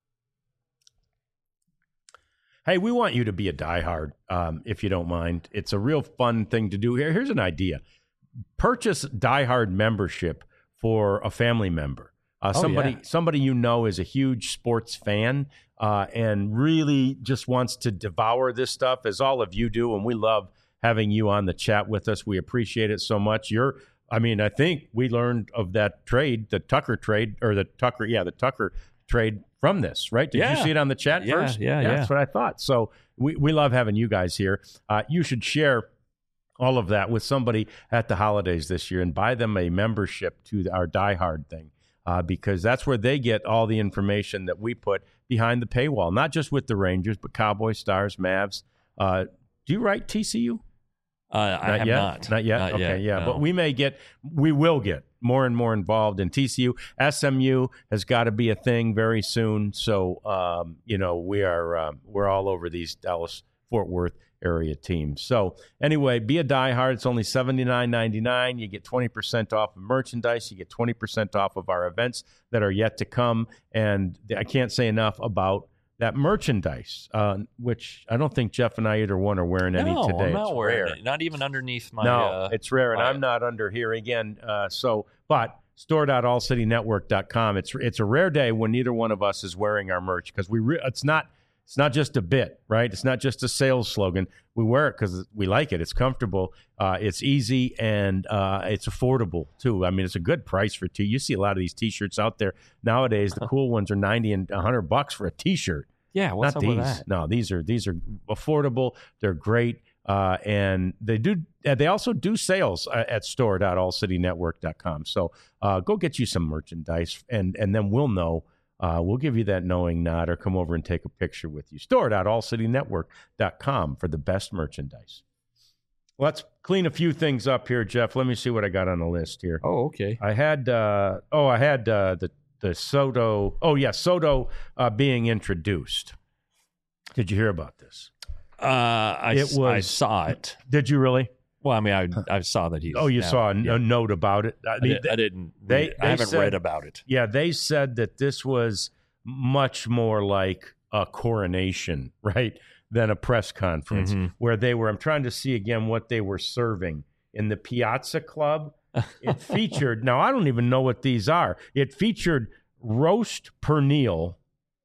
Hey, we want you to be a diehard, um, if you don't mind. It's a real fun thing to do here. Here's an idea. Purchase diehard membership for a family member. Uh, oh, somebody yeah. somebody you know is a huge sports fan uh, and really just wants to devour this stuff, as all of you do, and we love having you on the chat with us. We appreciate it so much. You're, I mean, I think we learned of that trade, the Tucker trade, or the Tucker, yeah, the Tucker trade from this, right? Did yeah. you see it on the chat yeah, first? Yeah, yeah, That's what I thought. So we, we love having you guys here. Uh, you should share all of that with somebody at the holidays this year and buy them a membership to our diehard thing. Uh, because that's where they get all the information that we put behind the paywall, not just with the Rangers, but Cowboys, Stars, Mavs. Uh, do you write T C U? Uh, I not have yet? not. Not yet? Not okay, yet, yeah. no. But we may get, we will get more and more involved in T C U. S M U has got to be a thing very soon. So, um, you know, we are, um, we're all over these Dallas-Fort Worth area teams. So anyway, be a diehard. It's only seventy-nine ninety-nine. You get twenty percent off of merchandise. You get twenty percent off of our events that are yet to come. And I can't say enough about that merchandise, uh, which I don't think Jeff and I either one are wearing any no, today. I'm not it's wearing rare. it. Not even underneath my. No, uh, it's rare, and my- I'm not under here again. Uh, so, but store dot all city network dot com. It's it's a rare day when neither one of us is wearing our merch because we re- it's not it's not just a bit, right? It's not just a sales slogan. We wear it because we like it. It's comfortable, uh, it's easy, and uh, it's affordable too. I mean, it's a good price for t. You see a lot of these T-shirts out there nowadays. The cool ones are ninety and a hundred bucks for a T-shirt. yeah, what's Not up these. with that? No, these are these are affordable. They're great, uh, and they do. Uh, they also do sales uh, at store dot all city network dot com. So uh, go get you some merchandise, and and then we'll know. Uh, we'll give you that knowing nod, or come over and take a picture with you. store dot all city network dot com for the best merchandise. Let's clean a few things up here, Jeff. Let me see what I got on the list here. Oh, okay. I had uh, oh, I had uh, the the Soto. Oh, yeah, Soto uh, being introduced. Did you hear about this? Uh, I, It s- I was- saw it. Did you really? Well, I mean, I I saw that he's. Oh, you now- saw a, yeah. a note about it. I I, mean, did, I didn't. they- read it. they I haven't said- read about it. yeah, they said that this was much more like a coronation, right, than a press conference Mhm. where they were. I'm trying to see again what they were serving in the Piazza Club. It featured. Now I don't even know what these are. It featured roast pernil,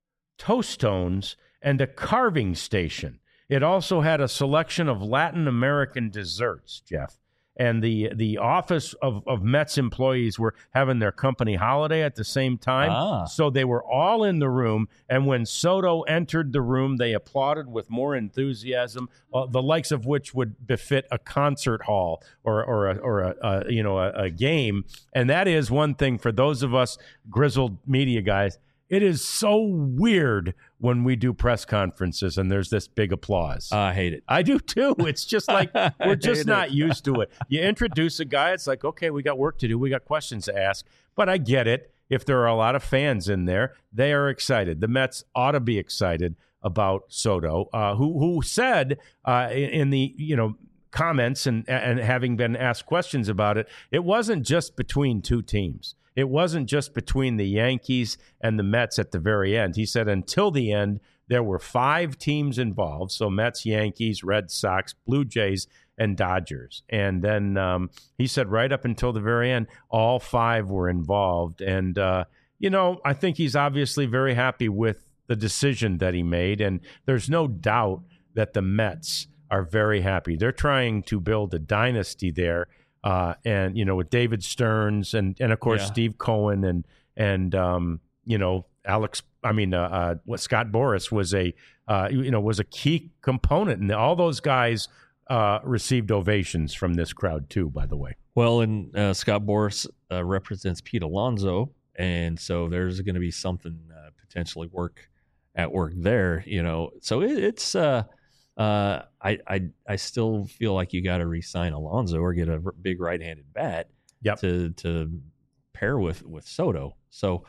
tostones, and a carving station. It also had a selection of Latin American desserts, Jeff. And the the office of, of Mets employees were having their company holiday at the same time. Ah. So they were all in the room. And when Soto entered the room, they applauded with more enthusiasm, uh, the likes of which would befit a concert hall or or a, or a, a you know a, a game. And that is one thing for those of us grizzled media guys. It is so weird when we do press conferences and there's this big applause. I hate it. I do too. It's just like we're just hate not it. used to it. You introduce a guy, it's like, okay, we got work to do. We got questions to ask. But I get it. If there are a lot of fans in there, they are excited. The Mets ought to be excited about Soto, uh, who who said uh, in, in the you know comments and and having been asked questions about it, it wasn't just between two teams. It wasn't just between the Yankees and the Mets at the very end. He said until the end, there were five teams involved. So Mets, Yankees, Red Sox, Blue Jays, and Dodgers. And then um, he said right up until the very end, all five were involved. And, uh, you know, I think he's obviously very happy with the decision that he made. And there's no doubt that the Mets are very happy. They're trying to build a dynasty there. Uh, and, you know, with David Stearns and, and of course, Yeah. Steve Cohen and, and um, you know, Alex, I mean, uh, uh, what Scott Boras was a, uh, you know, was a key component. And all those guys uh, received ovations from this crowd, too, by the way. Well, and uh, Scott Boras uh, represents Pete Alonso, and so there's going to be something uh, potentially work at work there, you know. So it, it's uh, uh, I I I still feel like you got to re-sign Alonso or get a r- big right-handed bat Yep. to to pair with with Soto. So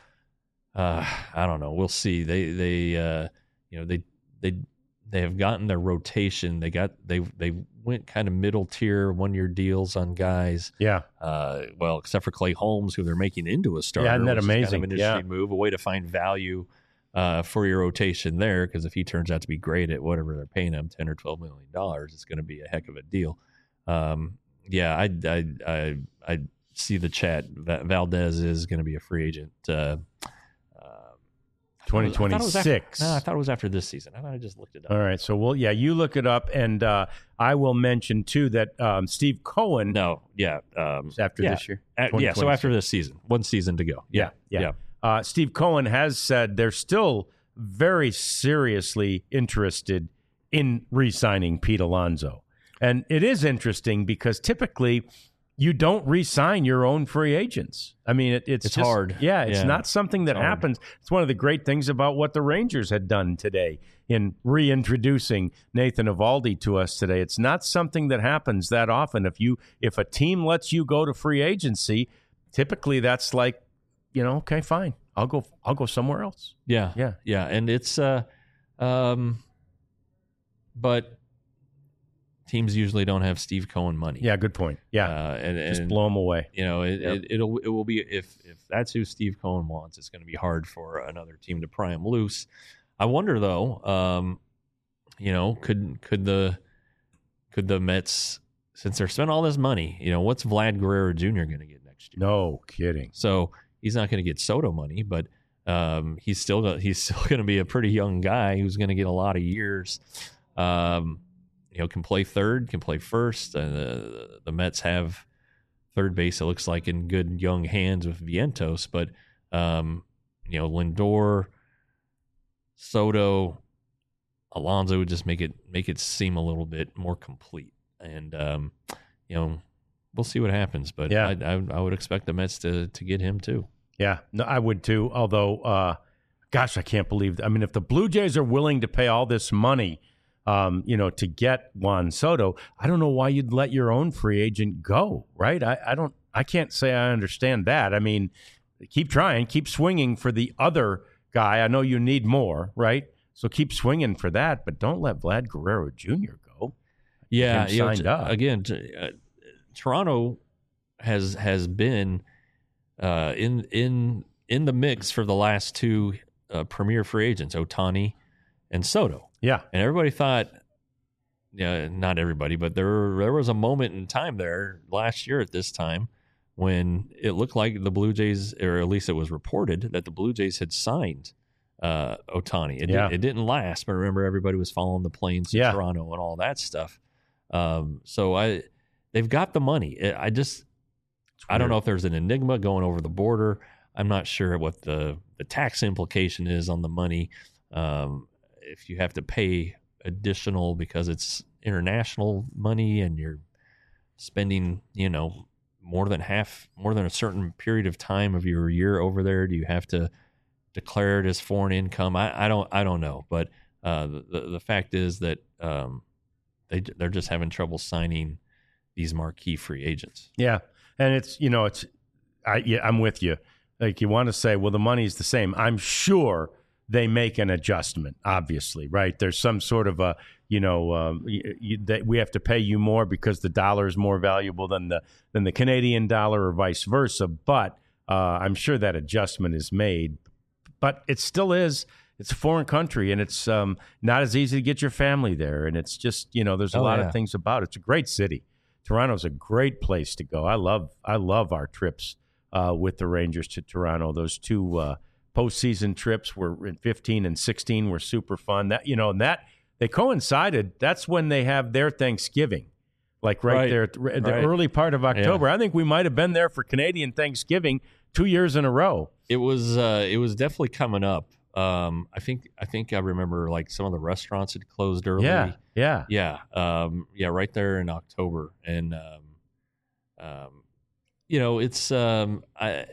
uh, I don't know. We'll see. They they uh, you know they they they have gotten their rotation. They got they they went kind of middle tier one year deals on guys. Yeah. Uh, well, except for Clay Holmes, who they're making into a starter. Yeah, isn't that which is kind amazing? of an Yeah. interesting move, a way to find value uh, for your rotation there. Because if he turns out to be great at whatever they're paying him, ten or twelve million dollars, it's going to be a heck of a deal. Um, yeah, I, I I I see the chat. Va- Valdez is going to be a free agent. Uh, twenty I thought it was after- twenty-six. No, I thought it was after this season. I thought I just looked it up. All right. So, well, yeah, you look it up. And uh, I will mention, too, that um, Steve Cohen, No, yeah, um, after yeah. this year. Uh, yeah, so after this season, one season to go. Yeah, Yeah. yeah. Uh, Steve Cohen has said they're still very seriously interested in re-signing Pete Alonso. And it is interesting because typically you don't re-sign your own free agents. I mean, it, it's It's just- hard. Yeah, it's Yeah. not something that It's hard. happens. It's one of the great things about what the Rangers had done today in reintroducing Nathan Eovaldi to us today. It's not something that happens that often. If you if a team lets you go to free agency, typically that's like, you know, okay, fine. I'll go I'll go somewhere else. Yeah, Yeah. yeah, and it's uh, um, but teams usually don't have Steve Cohen money. Yeah, good point. Yeah. uh, and, and Just blow them away. you know, it, Yep. it, it'll it will be if if that's who Steve Cohen wants, it's going to be hard for another team to pry him loose. I wonder though, um, you know, could could the could the Mets, since they're spending all this money, you know, what's Vlad Guerrero Junior going to get next year? No kidding. So he's not going to get Soto money, but um, he's still he's still going to be a pretty young guy who's going to get a lot of years. Um, you know, can play third, can play first. Uh, the, the Mets have third base, it looks like, in good young hands with Vientos, but um, you know, Lindor, Soto, Alonso would just make it make it seem a little bit more complete. And um, you know, we'll see what happens. But yeah. I, I, I would expect the Mets to to get him too. Yeah, no, I would too. Although, uh, gosh, I can't believe. I mean, if the Blue Jays are willing to pay all this money, um, you know, to get Juan Soto, I don't know why you'd let your own free agent go, right? I, I don't. I can't say I understand that. I mean, keep trying, keep swinging for the other guy. I know you need more, right? So keep swinging for that, but don't let Vlad Guerrero Junior go. Yeah, Him you know, signed t- up. again, t- uh, Toronto has has been uh, in in in the mix for the last two uh, premier free agents, Ohtani and Soto. Yeah, and everybody thought, yeah, not everybody, but there there was a moment in time there last year at this time when it looked like the Blue Jays, or at least it was reported that the Blue Jays had signed uh, Ohtani. It, Yeah. did, it didn't last, but remember everybody was following the planes to Yeah. Toronto and all that stuff. Um, so I, they've got the money. I I just, I don't know if there's an enigma going over the border. I'm not sure what the, the tax implication is on the money. Um, if you have to pay additional because it's international money and you're spending, you know, more than half, more than a certain period of time of your year over there, do you have to declare it as foreign income? I, I don't, I don't know. But uh, the the fact is that um, they they're just having trouble signing these marquee free agents. Yeah, and it's you know it's I yeah I'm with you. Like you want to say, well, the money's the same. I'm sure they make an adjustment. Obviously, right? There's some sort of a you know um, you, you, that we have to pay you more because the dollar is more valuable than the than the Canadian dollar, or vice versa. But uh, I'm sure that adjustment is made. But it still is. It's a foreign country, and it's um, not as easy to get your family there. And it's just you know there's a Oh, lot yeah. of things about it. It's a great city. Toronto's a great place to go. I love I love our trips uh, with the Rangers to Toronto. Those two uh, postseason trips were in fifteen and sixteen were super fun. That you know, and that they coincided. That's when they have their Thanksgiving, like right, Right. there at the, the Right. early part of October. I think we might have been there for Canadian Thanksgiving two years in a row. It was uh, it was definitely coming up. Um, I think I think I remember like some of the restaurants had closed early. Yeah, yeah, Yeah, um, yeah, right there in October, and um, um, you know, it's um, I,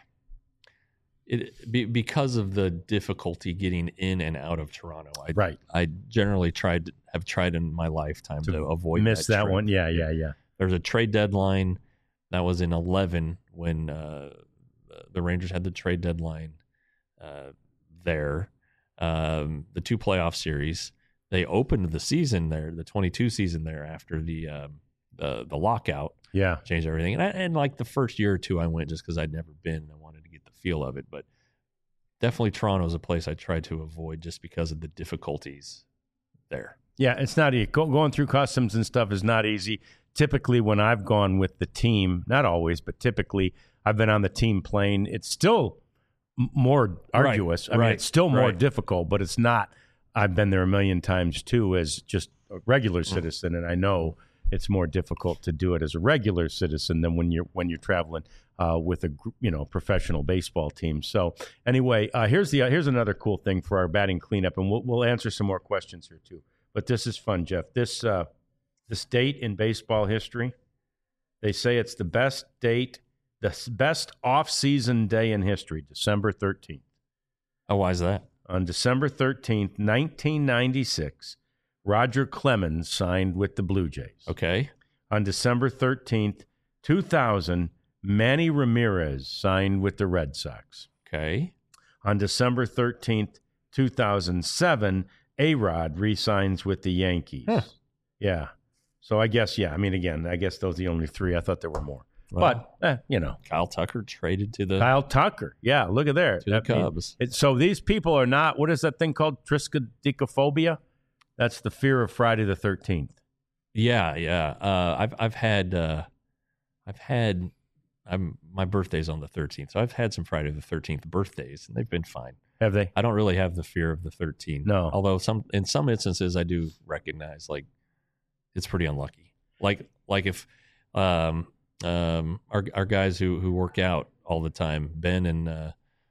it be, because of the difficulty getting in and out of Toronto. I, right. I generally tried have tried in my lifetime to, To avoid Miss that, that trip. one. Yeah, yeah, yeah. There's a trade deadline that was in eleven when uh, the Rangers had the trade deadline uh, there. Um, the two playoff series, they opened the season there, the twenty-two season there after the um, the the lockout, Yeah. changed everything. And, I, and like the first year or two, I went just because I'd never been and I wanted to get the feel of it. But definitely Toronto is a place I tried to avoid just because of the difficulties there. Yeah, it's not easy. Go, going through customs and stuff is not easy. Typically, when I've gone with the team, not always, but typically, I've been on the team plane. It's still m- more arduous. I mean, right, it's still more right. difficult, but it's not. I've been there a million times too as just a regular citizen, and I know it's more difficult to do it as a regular citizen than when you're when you're traveling uh, with a gr- you know professional baseball team. So anyway, uh, here's the uh, here's another cool thing for our batting cleanup, and we'll we'll answer some more questions here too. But this is fun, Jeff. This uh, this date in baseball history, they say it's the best date, the s- best off-season day in history, December thirteenth. Oh, why is that? On December thirteenth, nineteen ninety-six, Roger Clemens signed with the Blue Jays. Okay. On December thirteenth, two thousand, Manny Ramirez signed with the Red Sox. Okay. On December thirteenth, two thousand seven, A-Rod re-signs with the Yankees. Huh. Yeah. So I guess, yeah, I mean, again, I guess those are the only three. I thought there were more. Well, but, eh, you know. Kyle Tucker traded to the Kyle Tucker. Yeah, look at there. To the Cubs. It, so these people are not, what is that thing called? Triskaidekaphobia? That's the fear of Friday the thirteenth. Yeah, yeah. Uh, I've I've had uh, I've had I'm my birthday's on the thirteenth, so I've had some Friday the thirteenth birthdays, and they've been fine. Have they? I don't really have the fear of the thirteenth. No. Although some in some instances I do recognize like it's pretty unlucky. Like like if um um our our guys who who work out all the time, Ben and uh,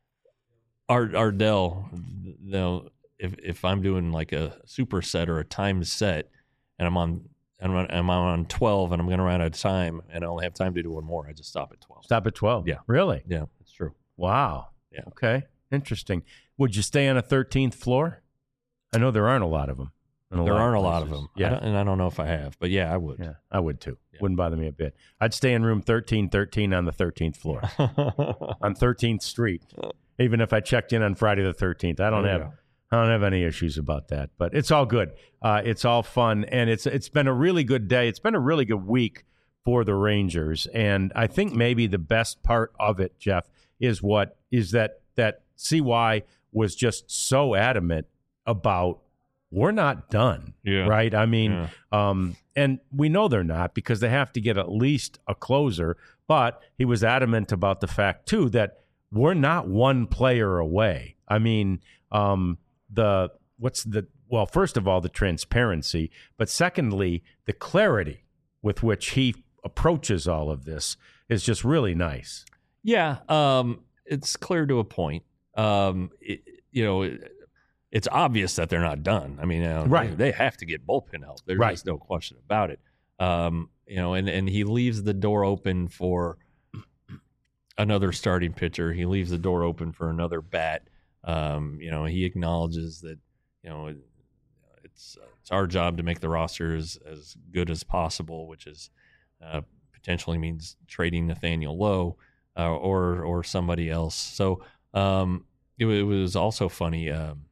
Ard Ardell, you know, if if I'm doing like a superset or a timed set, and I'm on and I'm, I'm on twelve, and I'm going to run out of time, and I only have time to do one more, I just stop at twelve. Stop at twelve. Yeah. Really? Yeah, that's true. Wow. Yeah. Okay. Interesting. Would you stay on a thirteenth floor? I know there aren't a lot of them. A there lot aren't of a lot of places. them. Yeah. I don't, and I don't know if I have, but yeah, I would. Yeah, I would too. Yeah. Wouldn't bother me a bit. I'd stay in room thirteen thirteen on the thirteenth floor on thirteenth Street, even if I checked in on Friday the thirteenth. I don't Oh, have yeah. I don't have any issues about that, but it's all good. Uh, it's all fun, and it's it's been a really good day. It's been a really good week for the Rangers, and I think maybe the best part of it, Jeff, is what is that that C Y was just so adamant about we're not done, Yeah. right? I mean, Yeah. um, and we know they're not because they have to get at least a closer, but he was adamant about the fact, too, that we're not one player away. I mean, um, the what's the well, first of all, the transparency, but secondly, the clarity with which he approaches all of this is just really nice. Yeah, um, it's clear to a point. Um, it, you know, it, it's obvious that they're not done. I mean, you know, Right. they, they have to get bullpen help. There's Right. just no question about it. Um, you know, and, and he leaves the door open for another starting pitcher. He leaves the door open for another bat. Um, you know, he acknowledges that, you know, it, it's it's our job to make the roster as, as good as possible, which is uh, potentially means trading Nathaniel Lowe uh, or or somebody else. So um, it, it was also funny. Um,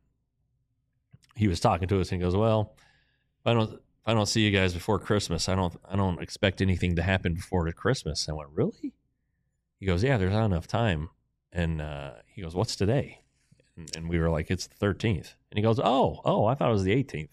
he was talking to us and he goes, "Well, if I don't if I don't see you guys before Christmas, I don't I don't expect anything to happen before the Christmas." I went, "Really?" He goes, "Yeah, there's not enough time." And uh, he goes, "What's today?" And, and we were like, "It's the thirteenth." And he goes, "Oh, oh, I thought it was the eighteenth."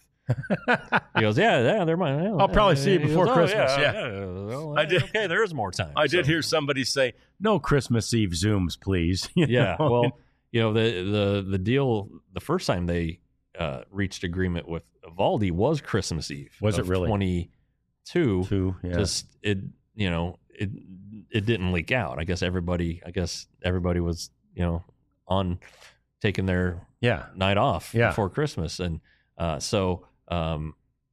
He goes, "Yeah, yeah, there might. Yeah, I'll probably see you He before goes, "Oh, Christmas." Yeah, Yeah. yeah. Well, I did- Okay, there is more time. I did So- hear somebody say, "No Christmas Eve Zooms, please." You Yeah, know? well, you know the the the deal. The first time they uh, reached agreement with Evaldi was Christmas Eve. Was it of really? twenty-two. Two, yeah. Just it, you know, it it didn't leak out. I guess everybody. I guess everybody was, you know, on taking their yeah. night off Yeah. before Christmas, and uh, so. Um,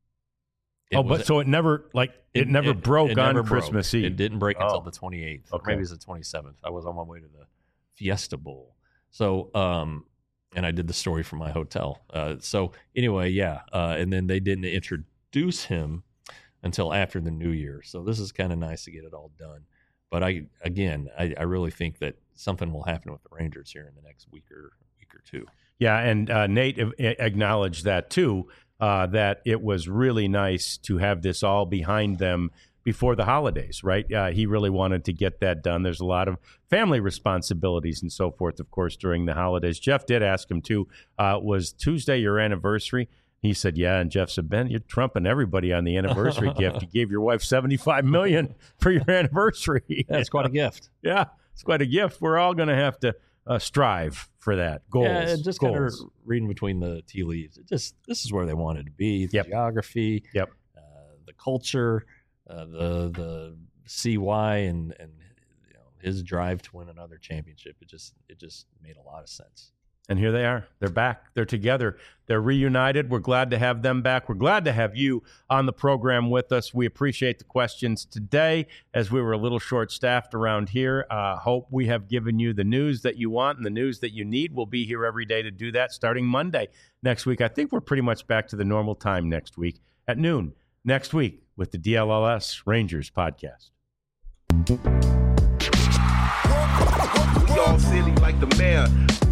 it Oh, was- but so it never like it, never broke it on never broke. Christmas Eve. It didn't break Oh. until the twenty-eighth. Or Okay. maybe it's the twenty-seventh. I was on my way to the Fiesta Bowl. So, um, and I did the story from my hotel. Uh, so anyway, yeah. Uh, and then they didn't introduce him until after the new year. So this is kind of nice to get it all done. But I, again, I, I really think that something will happen with the Rangers here in the next week or week or two. Yeah, and uh, Nate a- acknowledged that too. Uh, that it was really nice to have this all behind them before the holidays, right? Uh, he really wanted to get that done. There's a lot of family responsibilities and so forth, of course, during the holidays. Jeff did ask him too, uh, was Tuesday your anniversary? He said, yeah. And Jeff said, Ben, you're trumping everybody on the anniversary gift. You gave your wife seventy-five million dollars for your anniversary. Yeah, it's quite a gift. Yeah, it's quite a gift. We're all going to have to uh, strive for that. Goals. Yeah, and just kind of goals. reading between the tea leaves. It just this is where they wanted to be. The Yep. geography, Yep. uh, the culture, uh, the the C Y, and and you know, his drive to win another championship. It just it just made a lot of sense. And here they are. They're back. They're together. They're reunited. We're glad to have them back. We're glad to have you on the program with us. We appreciate the questions today as we were a little short-staffed around here. Uh, hope we have given you the news that you want and the news that you need. We'll be here every day to do that starting Monday next week. I think we're pretty much back to the normal time next week at noon next week with the D L L S Rangers podcast. We all silly like the mayor.